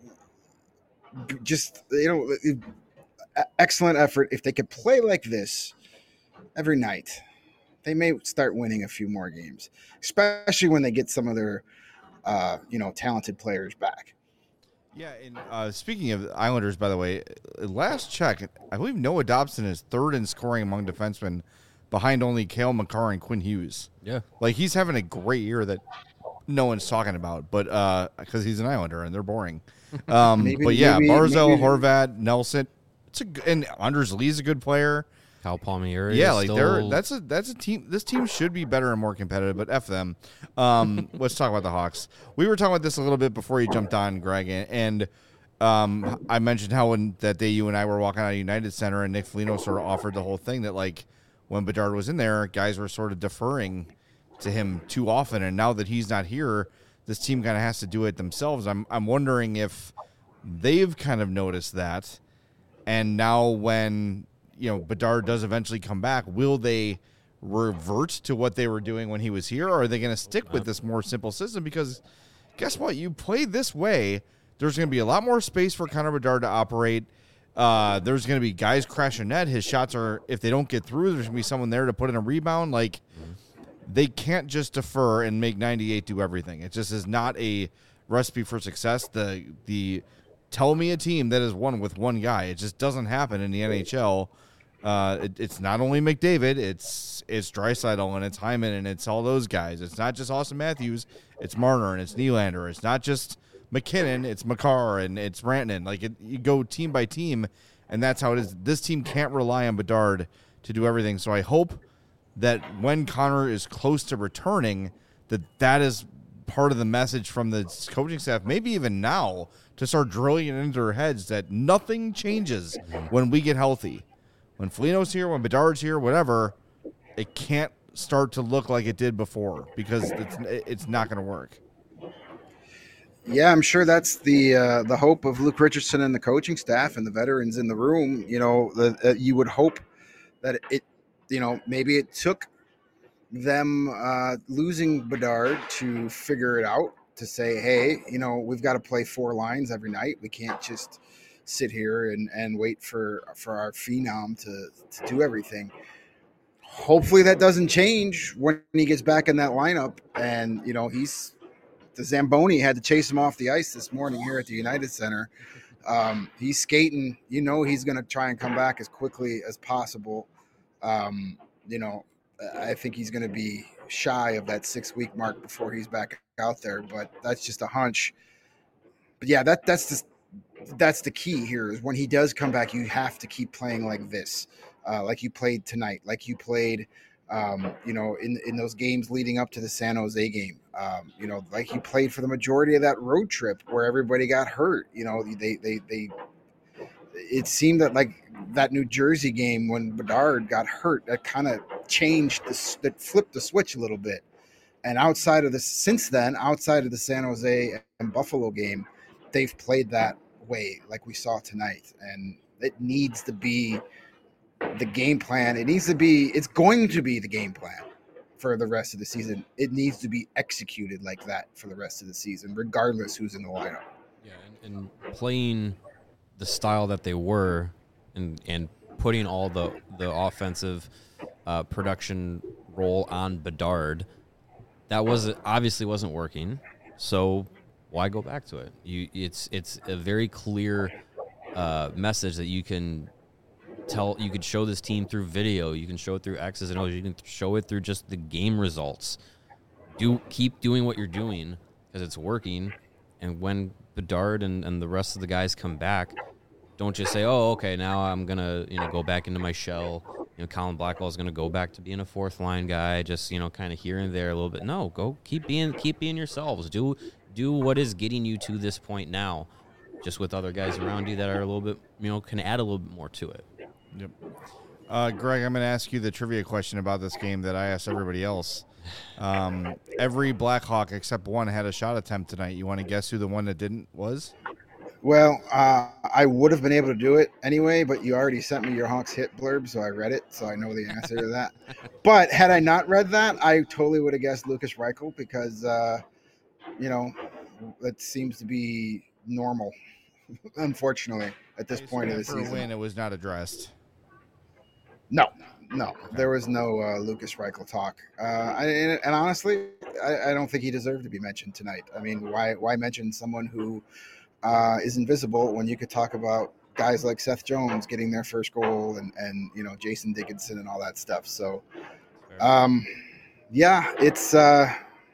just you know, excellent effort. If they could play like this every night, they may start winning a few more games, especially when they get some of their uh, you know talented players back. Yeah, and uh, speaking of Islanders, by the way, last check, I believe Noah Dobson is third in scoring among defensemen, behind only Cale Makar and Quinn Hughes. Yeah. Like, he's having a great year that no one's talking about, but because uh, he's an Islander and they're boring. Um, Maybe- but yeah, maybe- Barzal, maybe- Horvat, Nelson, it's a g- and Anders Lee's a good player. Cal Palmieri. Yeah, is like still, they're that's a that's a team. This team should be better and more competitive, but f them. Um, let's talk about the Hawks. We were talking about this a little bit before you jumped on, Greg, and, and um, I mentioned how when that day you and I were walking out of United Center, and Nick Foligno sort of offered the whole thing that like when Bedard was in there, guys were sort of deferring to him too often, and now that he's not here, this team kind of has to do it themselves. I'm I'm wondering if they've kind of noticed that, and now when you know, Bedard does eventually come back, will they revert to what they were doing when he was here, or are they going to stick with this more simple system? Because guess what? You play this way, there's going to be a lot more space for Connor Bedard to operate. Uh, there's going to be guys crashing net. His shots are, if they don't get through, there's going to be someone there to put in a rebound. Like, they can't just defer and make ninety-eight do everything. It just is not a recipe for success. The, the, tell me a team that has won with one guy. It just doesn't happen in the N H L. Uh, it, it's not only McDavid, it's it's Draisaitl and it's Hyman and it's all those guys. It's not just Austin Matthews, it's Marner and it's Nylander. It's not just McKinnon, it's Makar and it's Rantanen. Like it, you go team by team, and that's how it is. This team can't rely on Bedard to do everything. So I hope that when Connor is close to returning, that that is part of the message from the coaching staff, maybe even now, to start drilling it into their heads that nothing changes when we get healthy. When Foligno's here, when Bedard's here, whatever, it can't start to look like it did before because it's it's not going to work. Yeah, I'm sure that's the uh, the hope of Luke Richardson and the coaching staff and the veterans in the room. You know, the, uh, you would hope that it, you know, maybe it took them uh, losing Bedard to figure it out, to say, hey, you know, we've got to play four lines every night. We can't just sit here and, and wait for, for our phenom to, to do everything. Hopefully that doesn't change when he gets back in that lineup. And, you know, he's the Zamboni had to chase him off the ice this morning here at the United Center. Um, he's skating. You know, he's going to try and come back as quickly as possible. Um, you know, I think he's going to be shy of that six week mark before he's back out there, but that's just a hunch. But yeah, that that's just that's the key here is when he does come back, you have to keep playing like this, uh, like you played tonight, like you played, um, you know, in in those games leading up to the San Jose game, um, you know, like you played for the majority of that road trip where everybody got hurt. You know, they they they. It seemed that like that New Jersey game when Bedard got hurt, that kind of changed the that flipped the switch a little bit. And outside of this, since then, outside of the San Jose and Buffalo game, they've played that way like we saw tonight. And it needs to be the game plan. It needs to be, it's going to be the game plan for the rest of the season. It needs to be executed like that for the rest of the season, regardless who's in the lineup. Yeah, and, and playing the style that they were and and putting all the, the offensive uh, production role on Bedard, that was obviously wasn't working. So why go back to it? You it's it's a very clear uh, message that you can tell. You could show this team through video. You can show it through X's and O's. You can show it through just the game results. Do keep doing what you're doing because it's working. And when Bedard and, and the rest of the guys come back, don't just say, oh, okay, now I'm going to, you know, go back into my shell. You know, Colin Blackwell is going to go back to being a fourth line guy, just, you know, kind of here and there a little bit. No, go keep being keep being yourselves. Do do what is getting you to this point now, just with other guys around you that are a little bit, you know, can add a little bit more to it. Yep. Uh, Greg, I'm going to ask you the trivia question about this game that I asked everybody else. Um, every Blackhawk except one had a shot attempt tonight. You want to guess who the one that didn't was? Well, uh, I would have been able to do it anyway, but you already sent me your Hawks hit blurb, so I read it, so I know the answer to that. But had I not read that, I totally would have guessed Lukas Reichel because, uh, you know, that seems to be normal, unfortunately, at this point of the For season. a win, it was not addressed. No, no, there was no uh, Lukas Reichel talk. Uh, I, and, and honestly, I, I don't think he deserved to be mentioned tonight. I mean, why why mention someone who uh, is invisible when you could talk about guys like Seth Jones getting their first goal and, and you know, Jason Dickinson and all that stuff. So, um, yeah, it's uh,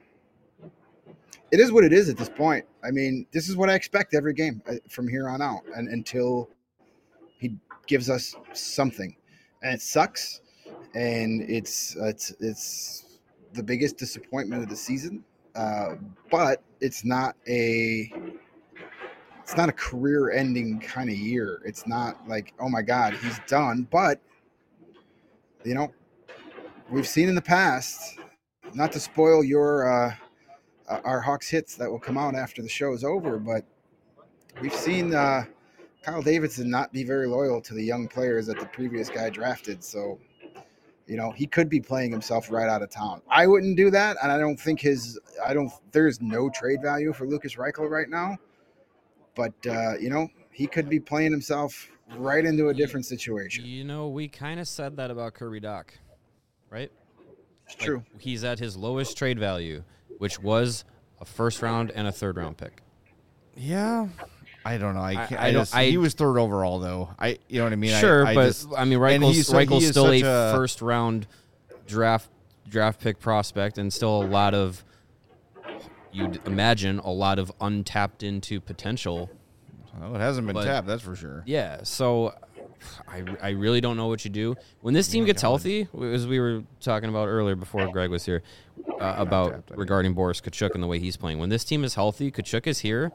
it is what it is at this point. I mean, this is what I expect every game from here on out, and until he gives us something. And it sucks, and it's it's it's the biggest disappointment of the season. Uh, but it's not a it's not a career-ending kind of year. It's not like, oh my God, he's done. But you know, we've seen in the past. Not to spoil your uh, our Hawks hits that will come out after the show is over, but we've seen. Uh, Kyle Davidson not be very loyal to the young players that the previous guy drafted. So, you know, he could be playing himself right out of town. I wouldn't do that. And I don't think his, I don't, there's no trade value for Lukas Reichel right now. But, uh, you know, he could be playing himself right into a different situation. You know, we kind of said that about Kirby Dach, right? It's like, true. He's at his lowest trade value, which was a first round and a third round pick. Yeah. I don't know. I, can't, I, I, don't. just, I, he was third overall, though. I, you know what I mean. Sure, I, I but just, I mean, Reichel's, so, Reichel's still a, a first round draft draft pick prospect, and still a lot of, you'd imagine, a lot of untapped into potential. Well, it hasn't been but, tapped, that's for sure. Yeah, so I, I really don't know what you do when this team oh gets God. healthy, as we were talking about earlier before Greg was here, uh, about tapped, I regarding mean. Boris Kachuk and the way he's playing. When this team is healthy, Kachuk is here.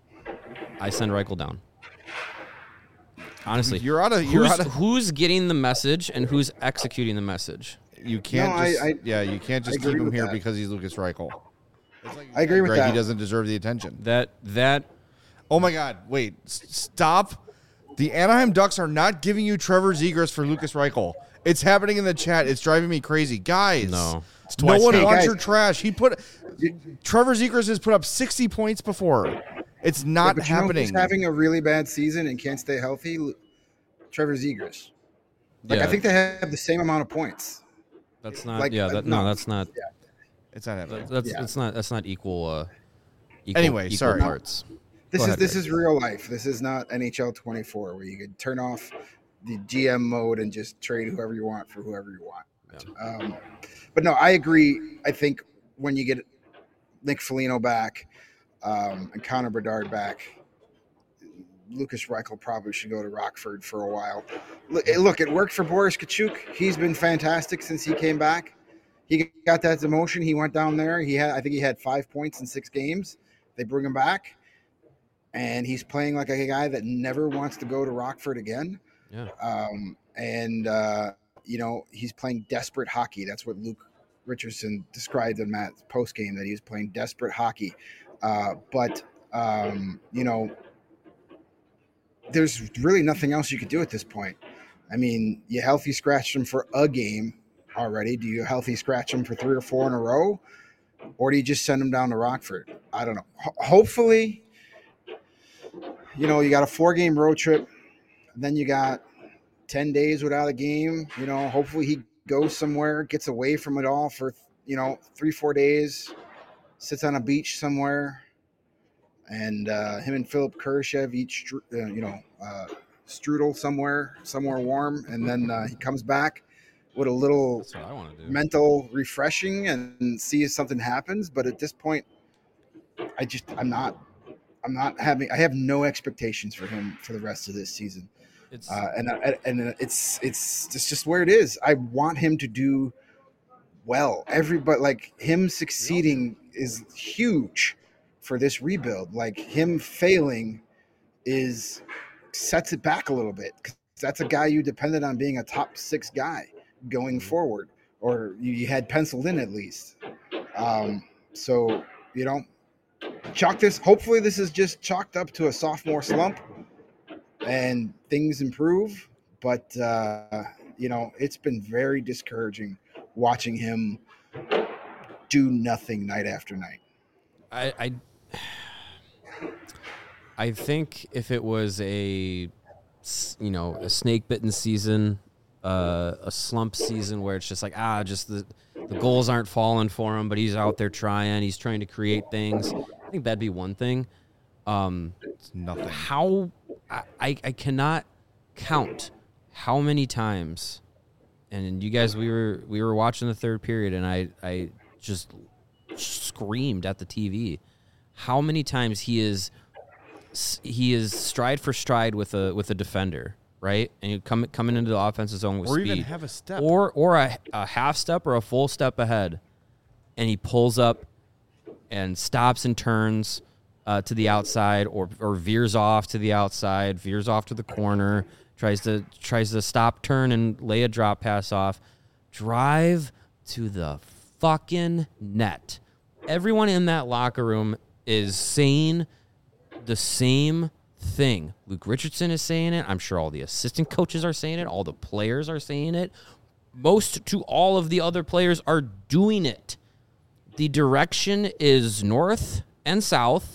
I send Reichel down. Honestly, you're out of you're who's, out of, who's getting the message and who's executing the message. You can't No, just I- I- yeah, you can't just I keep agree him with here that. because he's Lukas Reichel. I agree with Greg, that. he doesn't deserve the attention. That that Oh my God! Wait, s- stop! The Anaheim Ducks are not giving you Trevor Zegras for Lukas Reichel. It's happening in the chat. It's driving me crazy, guys. No. no twice. one Hey, wants guys. your trash. He put Trevor Zegras has put up sixty points before. It's Yeah, not but you know happening. who's having a really bad season and can't stay healthy? Lu- Trevor Zegras. Like, yeah, I think they have the same amount of points. that's not like, yeah uh, that, no, no. that's not it's not happening. that's Yeah. that's not that's not equal. Uh, equal Anyway, equal sorry. parts. This Go is ahead, this Greg. is real life. This is not N H L twenty-four where you could turn off the G M mode and just trade whoever you want for whoever you want. Um, but no, I agree. I think when you get Nick Foligno back um, and Connor Bedard back, Lucas Reichel probably should go to Rockford for a while. Look, look, it worked for Boris Kachuk. He's been fantastic since he came back. He got that demotion. He went down there. He had, I think he had five points in six games. They bring him back, and he's playing like a guy that never wants to go to Rockford again. Yeah. Um, and, uh, you know, he's playing desperate hockey. That's what Luke Richardson described in Matt's postgame, that he was playing desperate hockey. Uh, but, um, you know, there's really nothing else you could do at this point. I mean, you healthy scratched him for a game already. Do you healthy scratch him for three or four in a row? Or do you just send him down to Rockford? I don't know. Ho- hopefully, you know, you got a four-game road trip. Then you got ten days without a game. You know, hopefully he goes somewhere, gets away from it all for, you know, three, four days, sits on a beach somewhere, and uh, him and Philip Kurashev eat, stru- uh, you know, uh, strudel somewhere, somewhere warm, and then uh, he comes back with a little That's what I want to do. mental refreshing and see if something happens. But at this point, I just, I'm not, I'm not having, I have no expectations for him for the rest of this season. It's Uh, and I- and it's it's it's just where it is. I want him to do well. Everybody, like him succeeding is huge for this rebuild. Like him failing is sets it back a little bit. 'Cause that's a guy you depended on being a top six guy going forward, or you, you had penciled in at least. Um, so you know, chalk this. Hopefully, this is just chalked up to a sophomore slump, and things improve. But uh, you know, it's been very discouraging watching him do nothing night after night. I, I I think if it was a s- you know a snake bitten season, uh, a slump season where it's just like ah, just the the goals aren't falling for him, but he's out there trying, he's trying to create things. I think that'd be one thing. Um, It's nothing. how I, I I cannot count how many times, and you guys we were we were watching the third period, and I I just screamed at the T V how many times he is he is stride for stride with a with a defender, right? And you come coming into the offensive zone with Or speed, even have a step. or or a, a half step or a full step ahead, and he pulls up and stops and turns uh, to the outside, or or veers off to the outside, veers off to the corner, tries to tries to stop, turn, and lay a drop pass off, drive to the fucking net. Everyone in that locker room is saying the same thing. Luke Richardson is saying it. I'm sure all the assistant coaches are saying it. All the players are saying it. Most to all of the other players are doing it. The direction is north and south,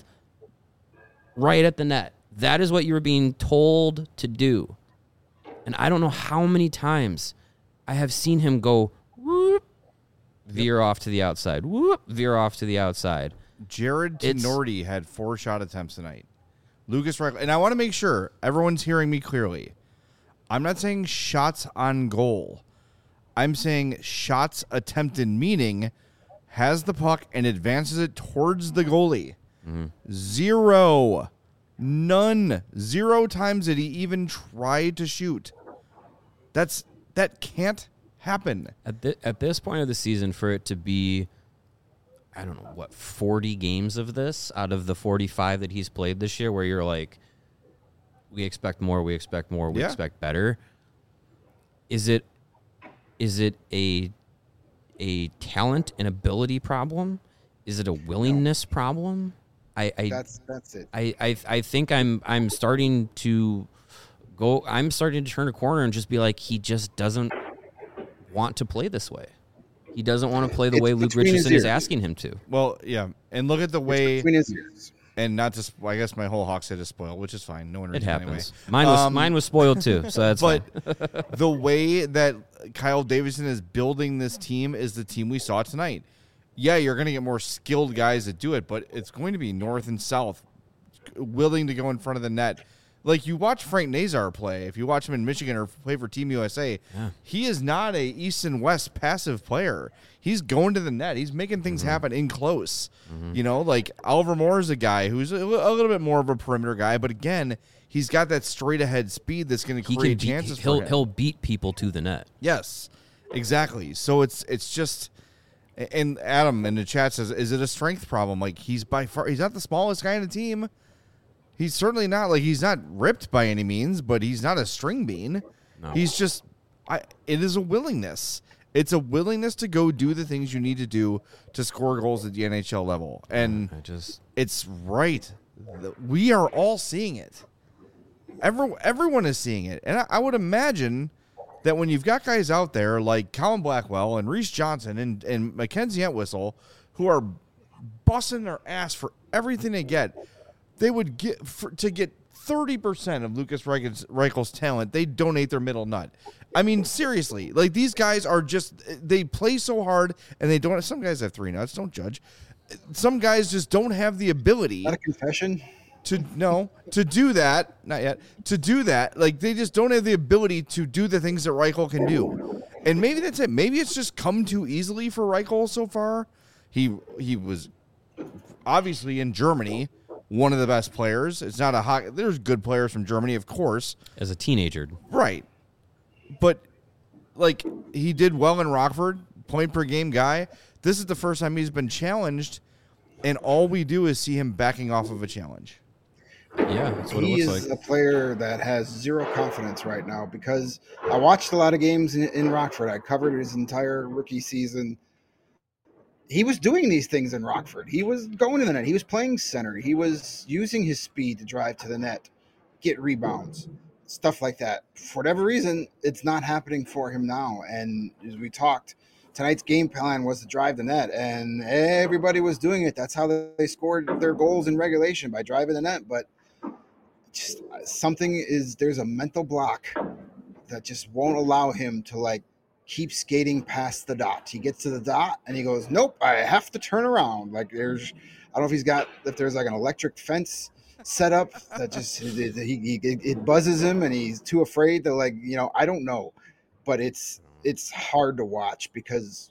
right at the net. That is what you were being told to do. And I don't know how many times I have seen him go, whoop, veer off to the outside, whoop, veer off to the outside. Jared It's- Tenorti had four shot attempts tonight. Lucas Reichel, and I want to make sure everyone's hearing me clearly. I'm not saying shots on goal. I'm saying shots attempted, meaning has the puck and advances it towards the goalie. Mm-hmm. Zero. None. Zero times did he even try to shoot. That's that can't happen. At, thi- at this point of the season, for it to be, I don't know, what, forty games of this out of the forty-five that he's played this year, where you're like, we expect more, we expect more, we Yeah. expect better. Is it is it a a talent and ability problem? Is it a willingness problem? I, I That's that's it. I, I I think I'm I'm starting to go I'm starting to turn a corner and just be like, he just doesn't want to play this way. He doesn't want to play the It's way Luke between his Richardson is ears. asking him to. Well, yeah, and look at the way, Between his ears. and not just. Well, I guess my whole Hawks head is spoiled, which is fine. No one It reads anyway. happens. Mine was Um, mine was spoiled too, so that's but fine. the way that Kyle Davidson is building this team is the team we saw tonight. Yeah, you're going to get more skilled guys that do it, but it's going to be north and south, willing to go in front of the net, Like, you watch Frank Nazar play, if you watch him in Michigan or play for Team U S A, yeah. he is not a East and West passive player. He's going to the net. He's making things mm-hmm. happen in close. Mm-hmm. You know, like Oliver Moore is a guy who's a, a little bit more of a perimeter guy, but again, he's got that straight ahead speed that's going to create beat, chances he'll, for him. He'll beat people to the net. Yes, exactly. So it's it's just, and Adam in the chat says, is it a strength problem? Like, he's by far, he's not the smallest guy in the team. He's certainly not, like, he's not ripped by any means, but he's not a string bean. No. He's just, I, it is a willingness. It's a willingness to go do the things you need to do to score goals at the N H L level. And I just, it's right. We are all seeing it. Every, everyone is seeing it. And I, I would imagine that when you've got guys out there like Colin Blackwell and Reese Johnson and, and Mackenzie Entwistle who are busting their ass for everything they get, they would get for, to get thirty percent of Lucas Reichel's talent, they donate their middle nut. I mean, seriously, like, these guys are just, they play so hard and they don't, some guys have three nuts, don't judge. Some guys just don't have the ability. Not a confession? To, no, to do that, not yet, to do that, like, they just don't have the ability to do the things that Reichel can do. And maybe that's it. Maybe it's just come too easily for Reichel so far. He, he was obviously in Germany one of the best players. It's not a hockey. There's good players from Germany, of course. As a teenager. Right. But, like, he did well in Rockford, point per game guy. This is the first time he's been challenged, and all we do is see him backing off of a challenge. Yeah, that's what he it looks is like. a player that has zero confidence right now because I watched a lot of games in, in Rockford. I covered his entire rookie season. He was doing these things in Rockford. He was going to the net. He was playing center. He was using his speed to drive to the net, get rebounds, stuff like that. For whatever reason, it's not happening for him now. And as we talked, tonight's game plan was to drive the net, and everybody was doing it. That's how they scored their goals in regulation, by driving the net. But just something is, there's a mental block that just won't allow him to, like, keep skating past the dot. He gets to the dot and he goes, nope, I have to turn around. Like, there's, I don't know if he's got, if there's like an electric fence set up that just, he, he, it buzzes him and he's too afraid to, like, you know, I don't know, but it's, it's hard to watch because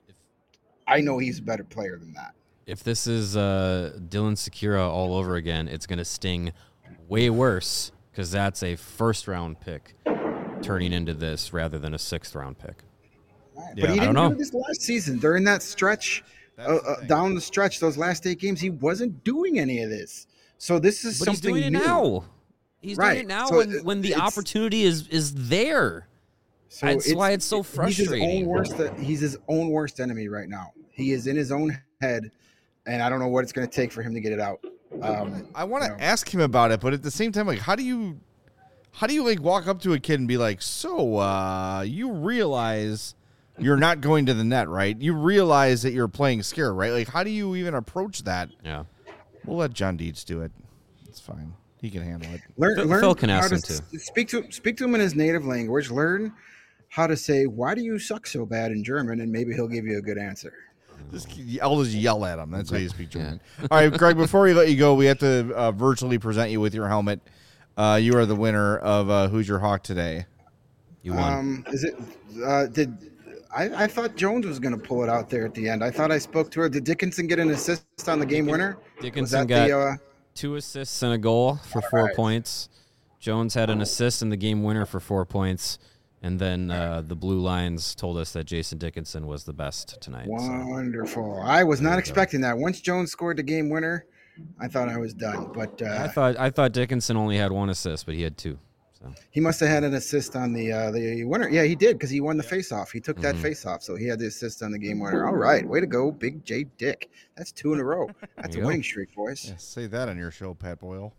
I know he's a better player than that. If this is uh, Dylan Sikura all over again, it's going to sting way worse because that's a first round pick turning into this rather than a sixth round pick. Right. Yeah, but he I don't didn't know. do this last season. During that stretch, uh, uh, down the stretch, those last eight games, he wasn't doing any of this. So this is but something he's doing it new. now. He's right. doing it now so when, when the opportunity is is there. So That's it's, why it's so frustrating. He's his own worst. He's his own worst enemy right now. He is in his own head, and I don't know what it's going to take for him to get it out. Um, I want to you know. ask him about it, but at the same time, like, how do you, how do you like walk up to a kid and be like, so uh, you realize you're not going to the net, right? You realize that you're playing scared, right? Like, how do you even approach that? Yeah, we'll let John Dietz do it. It's fine. He can handle it. Learn, Phil, learn Phil can ask how him to to speak to speak to him in his native language. Learn how to say, "Why do you suck so bad?" in German, and maybe he'll give you a good answer. Just, I'll just yell at him. That's how you speak German. Yeah. All right, Greg, before we let you go, we have to uh, virtually present you with your helmet. Uh, you are the winner of uh, Who's Your Hawk today. You won. Um, is it? Uh, did I, I thought Jones was going to pull it out there at the end? I thought I spoke to her. Did Dickinson get an assist on the game winner? Dickinson got the, uh, two assists and a goal for four right. points. Jones had an assist in the game winner for four points. And then uh, the Blue Lines told us that Jason Dickinson was the best tonight. Wonderful. So. I was not expecting that. Once Jones scored the game winner, I thought I was done. But uh, I thought I thought Dickinson only had one assist, but he had two. So he must have had an assist on the uh, the winner. Yeah, he did because he won the faceoff. He took that mm-hmm. faceoff, so he had the assist on the game winner. All right, way to go, Big J Dick. That's two in a row. That's a winning go. streak, boys. Yeah, say that on your show, Pat Boyle.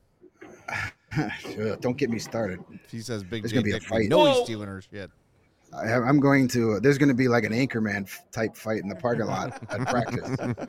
Don't get me started. If he says Big There's J gonna be Dick, a fight. no, he's stealing her shit. I have, I'm going to. Uh, there's going to be like an Anchorman type fight in the parking lot at practice.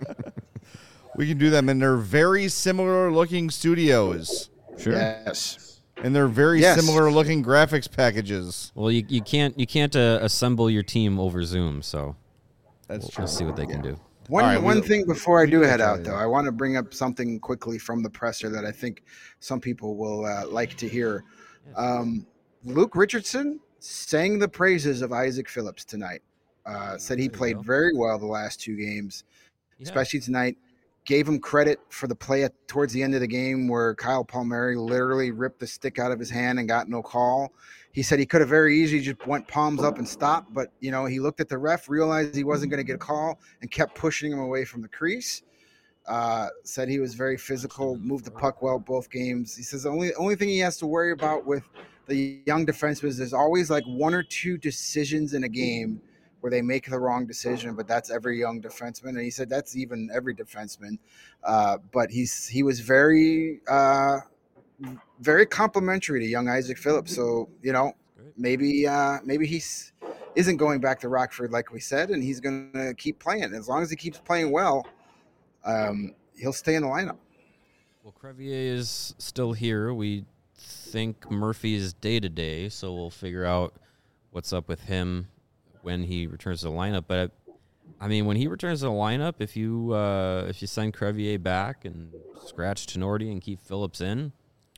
We can do them in their very similar looking studios. Sure. Yes. And they're very yes. similar looking graphics packages. Well, you you can't you can't uh, assemble your team over Zoom, so that's we'll, true. We'll see what they can do. One right, one we, thing before I do head out, though, I want to bring up something quickly from the presser that I think some people will uh, like to hear. Um, Luke Richardson sang the praises of Isaac Phillips tonight. Uh, said he played very well the last two games, yeah. especially tonight. Gave him credit for the play at, towards the end of the game where Kyle Palmieri literally ripped the stick out of his hand and got no call. He said he could have very easily just went palms up and stopped, but, you know, he looked at the ref, realized he wasn't going to get a call, and kept pushing him away from the crease. Uh, said he was very physical, moved the puck well both games. He says the only, only thing he has to worry about with the young defensemen is there's always like one or two decisions in a game where they make the wrong decision, but that's every young defenseman. And he said that's even every defenseman. Uh, but he's he was very, uh, very complimentary to young Isaac Phillips. So, you know, maybe uh, maybe he's isn't going back to Rockford like we said, and he's going to keep playing. As long as he keeps playing well, um, he'll stay in the lineup. Well, Crevier is still here. We think Murphy is day-to-day, so we'll figure out what's up with him when he returns to the lineup. But I mean, when he returns to the lineup, if you uh, if you send Crevier back and scratch Tenorti and keep Phillips in,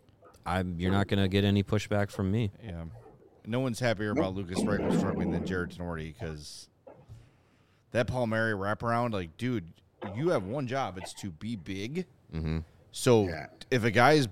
I'm you're not going to get any pushback from me. Yeah, no one's happier about Lucas Reichel struggling than Jared Tenorti because that Palmieri wraparound, like, dude, you have one job. It's to be big. Mm-hmm. So yeah. if a guy's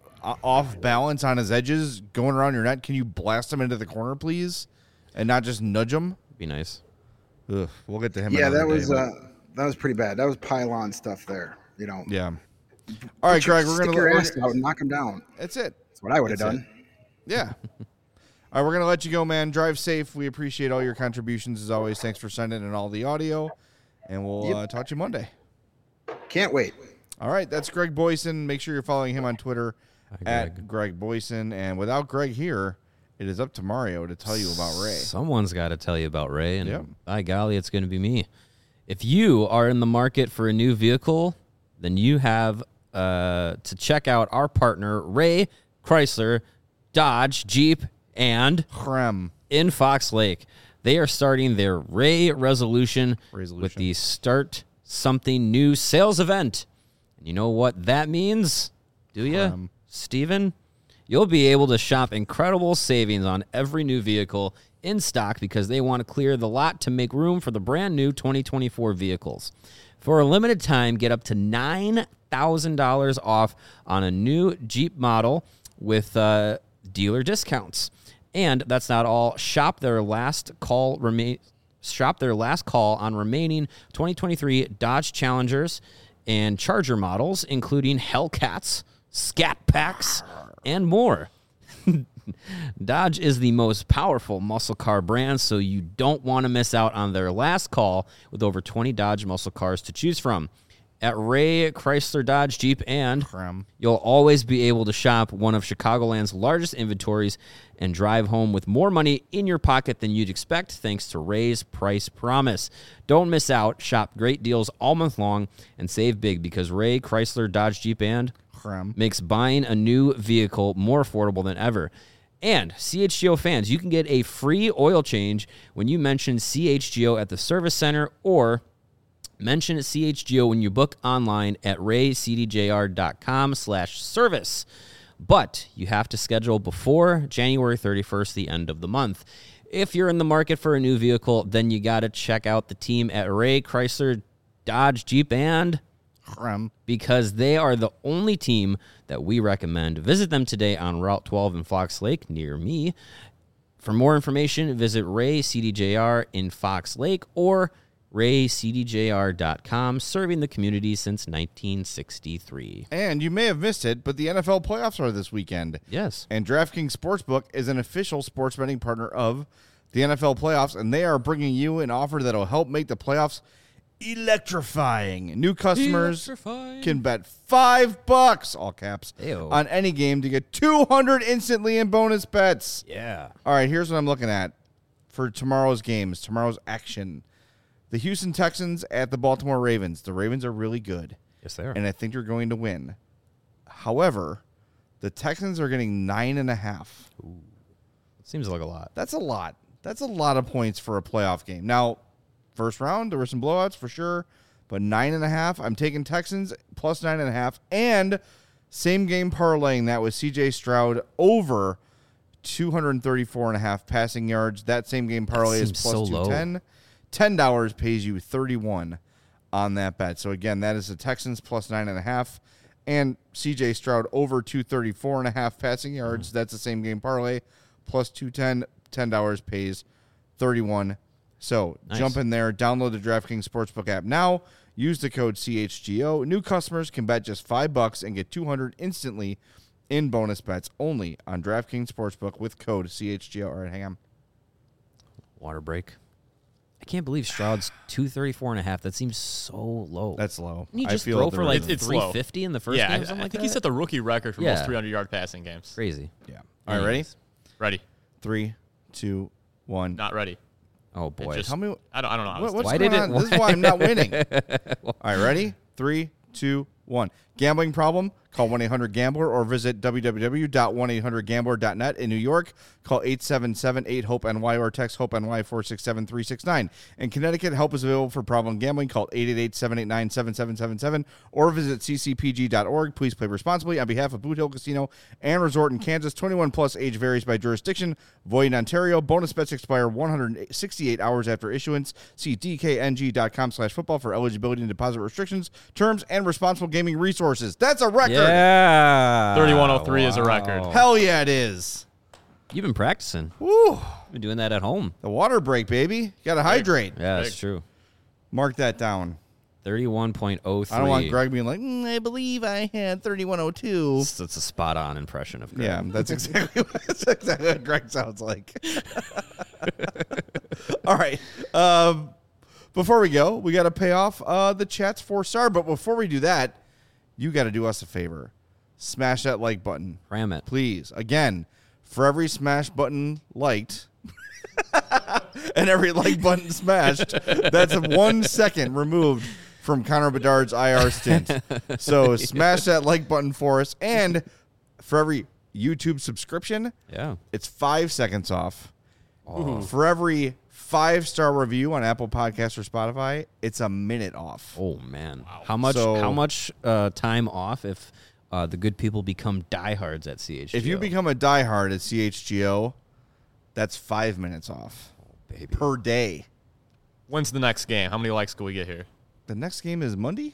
off balance on his edges going around your net, can you blast him into the corner, please? And not just nudge him? Be nice. Ugh, we'll get to him. Yeah, that was day, uh, that was pretty bad. That was pylon stuff there. You know. Yeah. All right, Greg, we're gonna stick your ass out and knock him down. That's it. That's what I would have That's done. It. Yeah. All right, we're gonna let you go, man. Drive safe. We appreciate all your contributions as always. Thanks for sending in all the audio, and we'll yep. uh, talk to you Monday. Can't wait. All right, that's Greg Boyson. Make sure you're following him on Twitter Hi, at Greg. Greg Boyson. And without Greg here, it is up to Mario to tell you about Ray. Someone's got to tell you about Ray, and yep. by golly, it's going to be me. If you are in the market for a new vehicle, then you have uh, to check out our partner, Ray Chrysler, Dodge, Jeep, and Chrem in Fox Lake. They are starting their Ray Resolution, Resolution. with the Start Something New sales event. And you know what that means? Do you, Um, Steven? You'll be able to shop incredible savings on every new vehicle in stock because they want to clear the lot to make room for the brand new twenty twenty-four vehicles. For a limited time, get up to nine thousand dollars off on a new Jeep model with uh, dealer discounts. And that's not all. Shop their last call remain. Shop their last call on remaining twenty twenty-three Dodge Challengers and Charger models, including Hellcats, Scat Packs, and more. Dodge is the most powerful muscle car brand, so you don't want to miss out on their last call with over twenty Dodge muscle cars to choose from. At Ray Chrysler Dodge Jeep and Chrem. You'll always be able to shop one of Chicagoland's largest inventories and drive home with more money in your pocket than you'd expect thanks to Ray's Price Promise. Don't miss out. Shop great deals all month long and save big because Ray Chrysler Dodge Jeep and Chrem. makes buying a new vehicle more affordable than ever. And C H G O fans, you can get a free oil change when you mention C H G O at the service center or mention C H G O when you book online at raycdjr.com slash service. But you have to schedule before January thirty-first, the end of the month. If you're in the market for a new vehicle, then you got to check out the team at Ray Chrysler Dodge Jeep and Chrem. because they are the only team that we recommend. Visit them today on Route twelve in Fox Lake near me. For more information, visit Ray C D J R in Fox Lake or ray c d j r dot com, serving the community since nineteen sixty-three. And you may have missed it, but the N F L playoffs are this weekend. Yes. And DraftKings Sportsbook is an official sports betting partner of the N F L playoffs, and they are bringing you an offer that will help make the playoffs electrifying. New customers Electrifying. can bet five bucks, all caps, Ew. on any game to get two hundred instantly in bonus bets. Yeah. All right, here's what I'm looking at for tomorrow's games, tomorrow's action. The Houston Texans at the Baltimore Ravens. The Ravens are really good. Yes, they are. And I think they're going to win. However, the Texans are getting nine and a half. Ooh. It seems like a lot. That's a lot. That's a lot of points for a playoff game. Now, first round, there were some blowouts for sure, but nine and a half. I'm taking Texans plus nine and a half, and same game parlaying that with C J Stroud over two thirty-four and a half passing yards. That same game parlay is seems plus so two low. ten. ten dollars pays you thirty-one on that bet. So again, that is the Texans plus nine and a half, and C J Stroud over two thirty-four and a half passing yards. Mm. That's the same game parlay plus two ten. ten dollars pays thirty-one. So nice. Jump in there, download the DraftKings Sportsbook app now. Use the code C H G O. New customers can bet just five bucks and get two hundred instantly in bonus bets only on DraftKings Sportsbook with code C H G O. All right, hang on. Water break. I can't believe Stroud's two thirty-four and a half. That seems so low. That's low. Can you just I feel throw for like it's three fifty in the first yeah, game or I, something I like think that? he set the rookie record for yeah. most three hundred yard passing games. Crazy. Yeah. All right, ready? Ready. Three, two, one. Not ready. Oh, boy. Just, Tell me. I don't, I don't know. What, what's why going did on? it? This is why I'm not winning. All right, ready? Three, two, one. Gambling problem? Call one eight hundred gambler or visit w w w dot one eight hundred gambler dot net. In New York, call eight seven seven eight hope N Y or text HOPE-NY four six seven three six nine. In Connecticut, help is available for problem gambling. Call eight eight eight seven eight nine seven seven seven seven or visit c c p g dot org. Please play responsibly on behalf of Boot Hill Casino and Resort in Kansas. twenty-one plus age varies by jurisdiction. Void in Ontario. Bonus bets expire one hundred sixty-eight hours after issuance. See d k n g dot com slash football for eligibility and deposit restrictions, terms, and responsible gaming resources. That's a record. Yeah. thirty-one oh three wow. is a record. Hell yeah, it is. You've been practicing. Woo. You've been doing that at home. The water break, baby. You got to hydrate. Yeah, that's true. Mark that down. thirty-one point oh three. I don't want Greg being like, mm, I believe I had thirty-one oh two. That's a spot-on impression of Greg. Yeah, that's exactly, that's exactly what Greg sounds like. All right. Um, before we go, we got to pay off uh, the chat's four-star. But before we do that, you got to do us a favor. Smash that like button. Ram it. Please. Again, for every smash button liked and every like button smashed, that's one second removed from Connor Bedard's I R stint. So smash that like button for us. And for every YouTube subscription, yeah, it's five seconds off. Oh. For every five-star review on Apple Podcasts or Spotify, it's a minute off. Oh, man. Wow. How much So- How much uh, time off if uh, the good people become diehards at C H G O? If you become a diehard at C H G O, that's five minutes off oh, baby. per day. When's the next game? How many likes can we get here? The next game is Monday?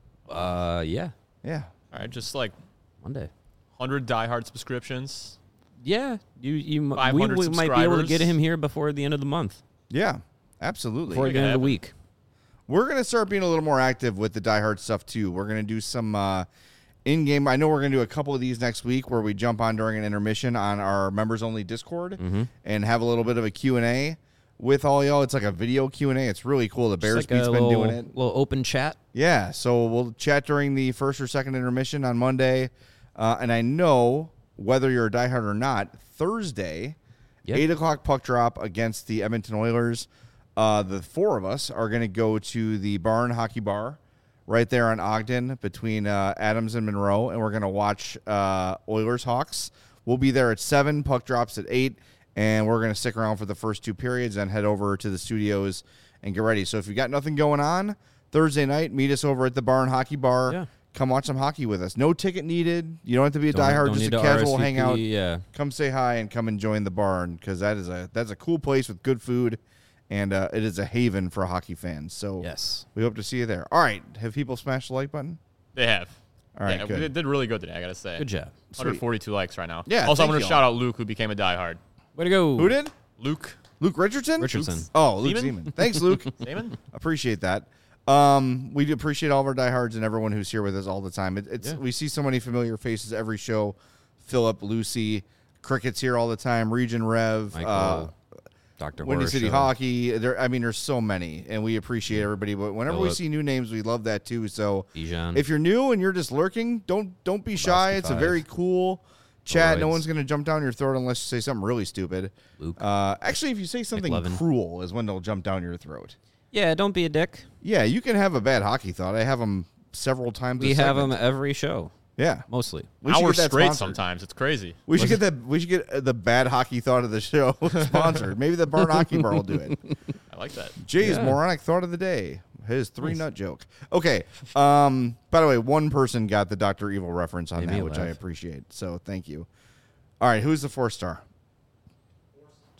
Uh, yeah. Yeah. All right, just like Monday. one hundred diehard subscriptions. Yeah. You, you, we, five hundred we might be able to subscribers. get him here before the end of the month. Yeah, absolutely. Before the end of the week. We're going to start being a little more active with the diehard stuff, too. We're going to do some uh, in-game. I know we're going to do a couple of these next week where we jump on during an intermission on our members-only Discord Mm-hmm. and have a little bit of a Q and A with all y'all. It's like a video Q and A. It's really cool. The Bears Just Beat's like a been little, doing it. little open chat. Yeah, so we'll chat during the first or second intermission on Monday. Uh, and I know whether you're a diehard or not, Thursday, Yep. eight o'clock puck drop against the Edmonton Oilers. Uh, the four of us are going to go to the Barn Hockey Bar right there on Ogden between uh, Adams and Monroe, and we're going to watch uh, Oilers Hawks. We'll be there at seven, puck drops at eight, and we're going to stick around for the first two periods and head over to the studios and get ready. So if you got nothing going on Thursday night, meet us over at the Barn Hockey Bar. Yeah. Come watch some hockey with us. No ticket needed. You don't have to be a Don't- diehard, don't just need a to casual R S V P, hangout. yeah. Come say hi and come and join the barn because that is a that's a cool place with good food, and uh, it is a haven for hockey fans. So Yes. we hope to see you there. All right, have people smashed the like button? They have. All right, yeah, good. we did really good today, I got to say. Good job. one hundred forty-two likes right now. Yeah, Also, I'm thank going to you shout all. out Luke, who became a diehard. Way to go. Who did? Luke. Luke Richardson? Richardson. Oh, Luke Seaman? Seaman. Thanks, Luke. Seaman? Appreciate that. Um, we do appreciate all of our diehards and everyone who's here with us all the time. It, it's Yeah. we see so many familiar faces every show. Philip, Lucy, Cricket's here all the time. Region Rev, Michael, uh, Doctor Windy Horror City Show. Hockey. There, I mean, there's so many, and we appreciate everybody. But whenever we Philip. see new names, we love that too. So Bijan. if you're new and you're just lurking, don't don't be shy. Lebowski It's a five. very cool chat. No Polaroids. one's gonna jump down your throat unless you say something really stupid. Luke. Uh, actually, if you say something McLovin. cruel, is when they'll jump down your throat. Yeah, don't be a dick. Yeah, you can have a bad hockey thought. I have them several times. We a have them segment. every show. Yeah, Mostly. we should Hours get that straight sponsored. sometimes. It's crazy. We should get that. We should get uh, the bad hockey thought of the show sponsored. Maybe the Barn Hockey Bar will do it. I like that. Jay's Yeah. moronic thought of the day. His three nut joke. Okay. Um. By the way, one person got the Doctor Evil reference on Made that, me which I laugh. appreciate. So thank you. All right. Who's the four star?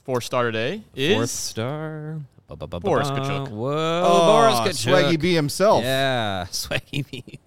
Four star today is Fourth star. Ba-ba-ba-ba-ba. Boris Kachuk. Whoa, Oh, Boris Kachuk. Swaggy B himself. Yeah, Swaggy B.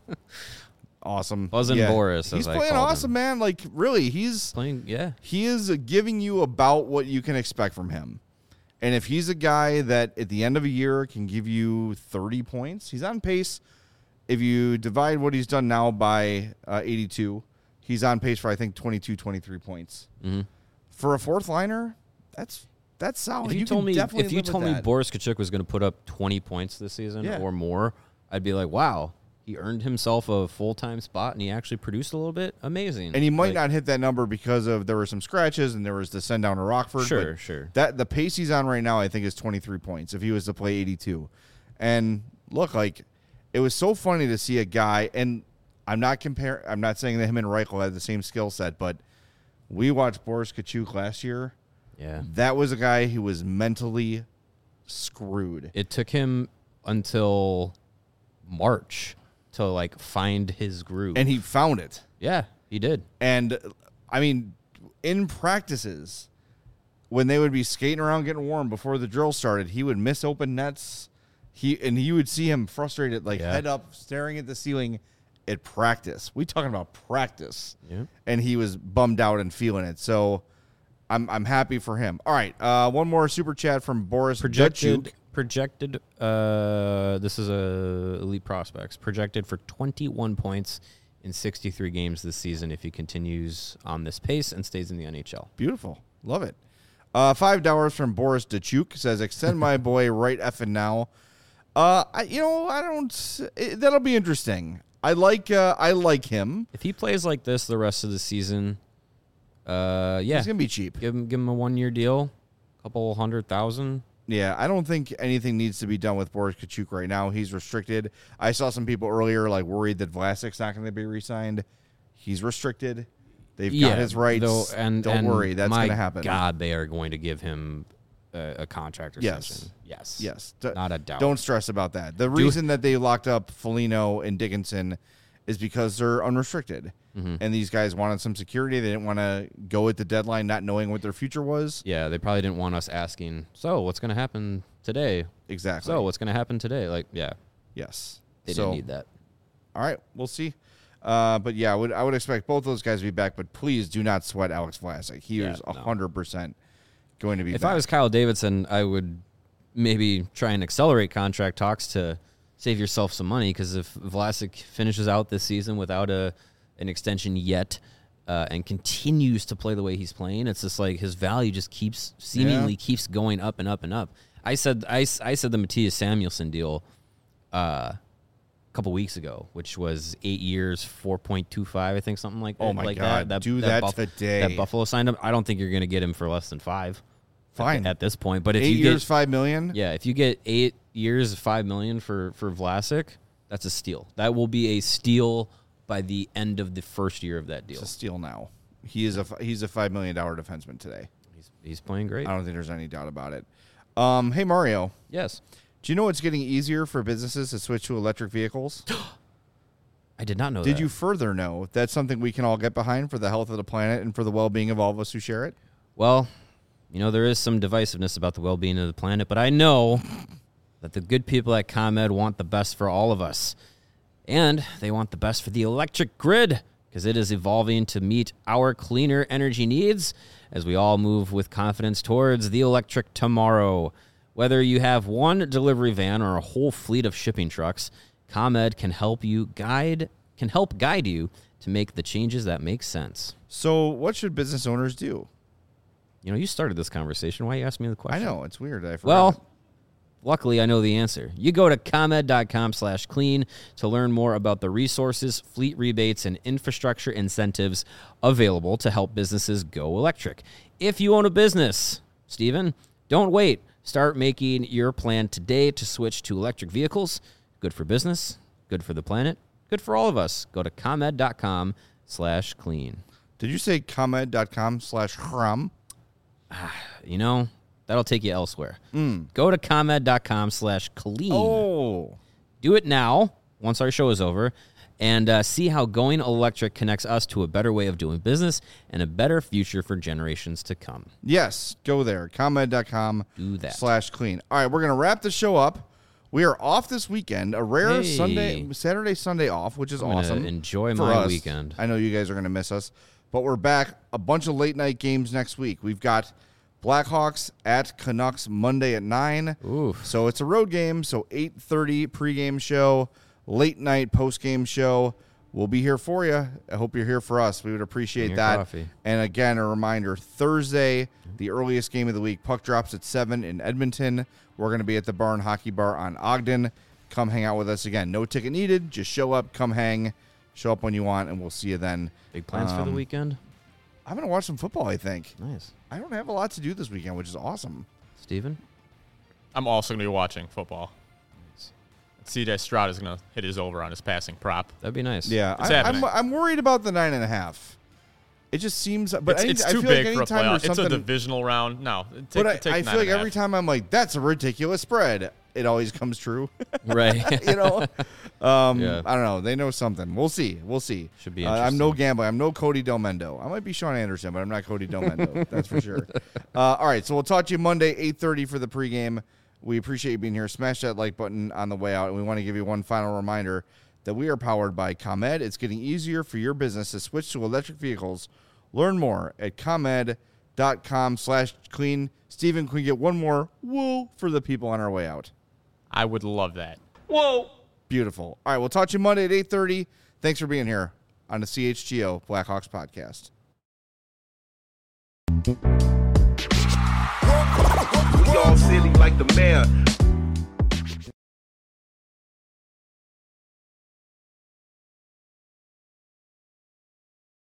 Awesome. Buzzin' Yeah. Boris, as He's I playing called awesome, him. man. Like, really, he's Playing, yeah. he is giving you about what you can expect from him. And if he's a guy that at the end of a year can give you thirty points, he's on pace. If you divide what he's done now by uh, eighty-two, he's on pace for, I think, twenty-two, twenty-three points. Mm-hmm. For a fourth liner, that's that's solid. If you, you told can me, definitely if you live with told me that. Boris Kachuk was going to put up twenty points this season Yeah. or more, I'd be like, wow, he earned himself a full time spot and he actually produced a little bit. Amazing. And he might Like, not hit that number because of there were some scratches and there was the send down to Rockford. Sure, but sure. That the pace he's on right now, I think, is twenty-three points if he was to play eighty-two. And look, like it was so funny to see a guy, and I'm not comparing. I'm not saying that him and Reichel had the same skill set, but we watched Boris Kachuk last year. Yeah, that was a guy who was mentally screwed. It took him until March to like find his groove, And he found it. yeah, he did. And I mean, in practices, when they would be skating around getting warm before the drill started, he would miss open nets. He and you would see him frustrated, like Yeah. head up, staring at the ceiling at practice. We talking about practice. Yeah. And he was bummed out and feeling it. So I'm I'm happy for him. All right, uh, one more super chat from Boris Projected, Dutchuk. projected. Uh, this is a elite prospects projected for twenty-one points in sixty-three games this season if he continues on this pace and stays in the N H L. Beautiful. Love it. Uh, five dollars from Boris Dachuk says, extend my boy right effing now. Uh, I, you know, I don't, it, that'll be interesting. I like, uh, I like him. If he plays like this the rest of the season, uh, yeah, He's going to be cheap. give him give him a one year deal, couple hundred thousand. Yeah, I don't think anything needs to be done with Boris Kachuk right now. He's restricted. I saw some people earlier like worried that Vlasic's not going to be re-signed. He's restricted. They've Yeah, got his rights. though, and don't and worry, that's my going to happen. God, they are going to give him a, a contract Yes. extension. Yes, Yes. D- not a doubt. Don't stress about that. The reason that they locked up Foligno and Dickinson is because they're unrestricted. Mhm. And these guys wanted some security. They didn't want to go at the deadline not knowing what their future was. Yeah, they probably didn't want us asking, so what's going to happen today? Exactly. So what's going to happen today? Like, yeah, Yes. they So, didn't need that. All right, we'll see. Uh, but yeah, I would I would expect both those guys to be back. But please do not sweat Alex Vlasic. He Yeah, is no. a hundred percent going to be. If back. I was Kyle Davidson, I would maybe try and accelerate contract talks to save yourself some money, because if Vlasic finishes out this season without a an extension yet uh, and continues to play the way he's playing, it's just like his value just keeps seemingly Yeah. keeps going up and up and up. I said I, s- I said the Matthias Samuelson deal uh, a couple weeks ago, which was eight years, four point two five, I think, something like Oh that. my like God, that. do that Buff- today. That Buffalo signed him. I don't think you're going to get him for less than five. Fine. at this point. But if eight you years, get, five million. yeah, if you get eight years, five million for for Vlasic, that's a steal. That will be a steal by the end of the first year of that deal. It's a steal now. He is a f- he's a five million dollar defenseman today. He's he's playing great. I don't think there's any doubt about it. Um, hey Mario, Yes, do you know it's getting easier for businesses to switch to electric vehicles? I did not know. Did that. you further know that's something we can all get behind for the health of the planet and for the well-being of all of us who share it? Well, you know, there is some divisiveness about the well-being of the planet, but I know that the good people at ComEd want the best for all of us. And they want the best for the electric grid, because it is evolving to meet our cleaner energy needs as we all move with confidence towards the electric tomorrow. Whether you have one delivery van or a whole fleet of shipping trucks, ComEd can help you guide can help guide you to make the changes that make sense. So what should business owners do? You know, you started this conversation. Why you ask me the question? I know, it's weird. I forgot. Well, luckily I know the answer. You go to ComEd.com slash clean to learn more about the resources, fleet rebates, and infrastructure incentives available to help businesses go electric. If you own a business, Stephen, don't wait. Start making your plan today to switch to electric vehicles. Good for business, good for the planet, good for all of us. Go to ComEd.com slash clean. Did you say ComEd.com slash HRAM? You know, that'll take you elsewhere. Go to ComEd.com slash clean. Oh. Do it now, once our show is over, and uh, see how going electric connects us to a better way of doing business and a better future for generations to come. Yes, go there. ComEd dot com Do that. slash clean. All right, we're going to wrap the show up. We are off this weekend, a rare Hey. Sunday, Saturday, Sunday off, which is I'm gonna awesome. enjoy for my us. weekend. I know you guys are going to miss us, but we're back. A bunch of late night games next week. We've got Blackhawks at Canucks Monday at nine. Oof. So it's a road game. So eight thirty pregame show, late night postgame show. We'll be here for you. I hope you're here for us. We would appreciate Bring your that. coffee. And again, a reminder, Thursday, the earliest game of the week, puck drops at seven in Edmonton. We're going to be at the Barn Hockey Bar on Ogden. Come hang out with us again. No ticket needed. Just show up, come hang, show up when you want, and we'll see you then. Big plans for the Um, weekend? I'm going to watch some football, I think. Nice. I don't have a lot to do this weekend, which is awesome. Steven? I'm also going to be watching football. C J Stroud is going to hit his over on his passing prop. That'd be nice. Yeah, It's I, happening. I'm, I'm worried about the nine and a half. It just seems, but it's any, it's I too feel big like for a anytime playoff. there's It's a something, divisional round. No, take, but I, take I nine feel like and a every half. time I'm like, that's a ridiculous spread. It always comes true. Right. you know, um, Yeah. I don't know. They know something. We'll see. We'll see. Should be Uh, I'm no interesting. gambler. I'm no Cody Delmendo. I might be Sean Anderson, but I'm not Cody Delmendo. That's for sure. Uh, all right. So we'll talk to you Monday, eight thirty for the pregame. We appreciate you being here. Smash that like button on the way out. And we want to give you one final reminder that we are powered by ComEd. It's getting easier for your business to switch to electric vehicles. Learn more at ComEd dot com slash clean. Steven, can we get one more whoa for the people on our way out? I would love that. Whoa. Beautiful. All right, we'll talk to you Monday at eight thirty. Thanks for being here on the C H G O Blackhawks podcast. We all silly like the mayor.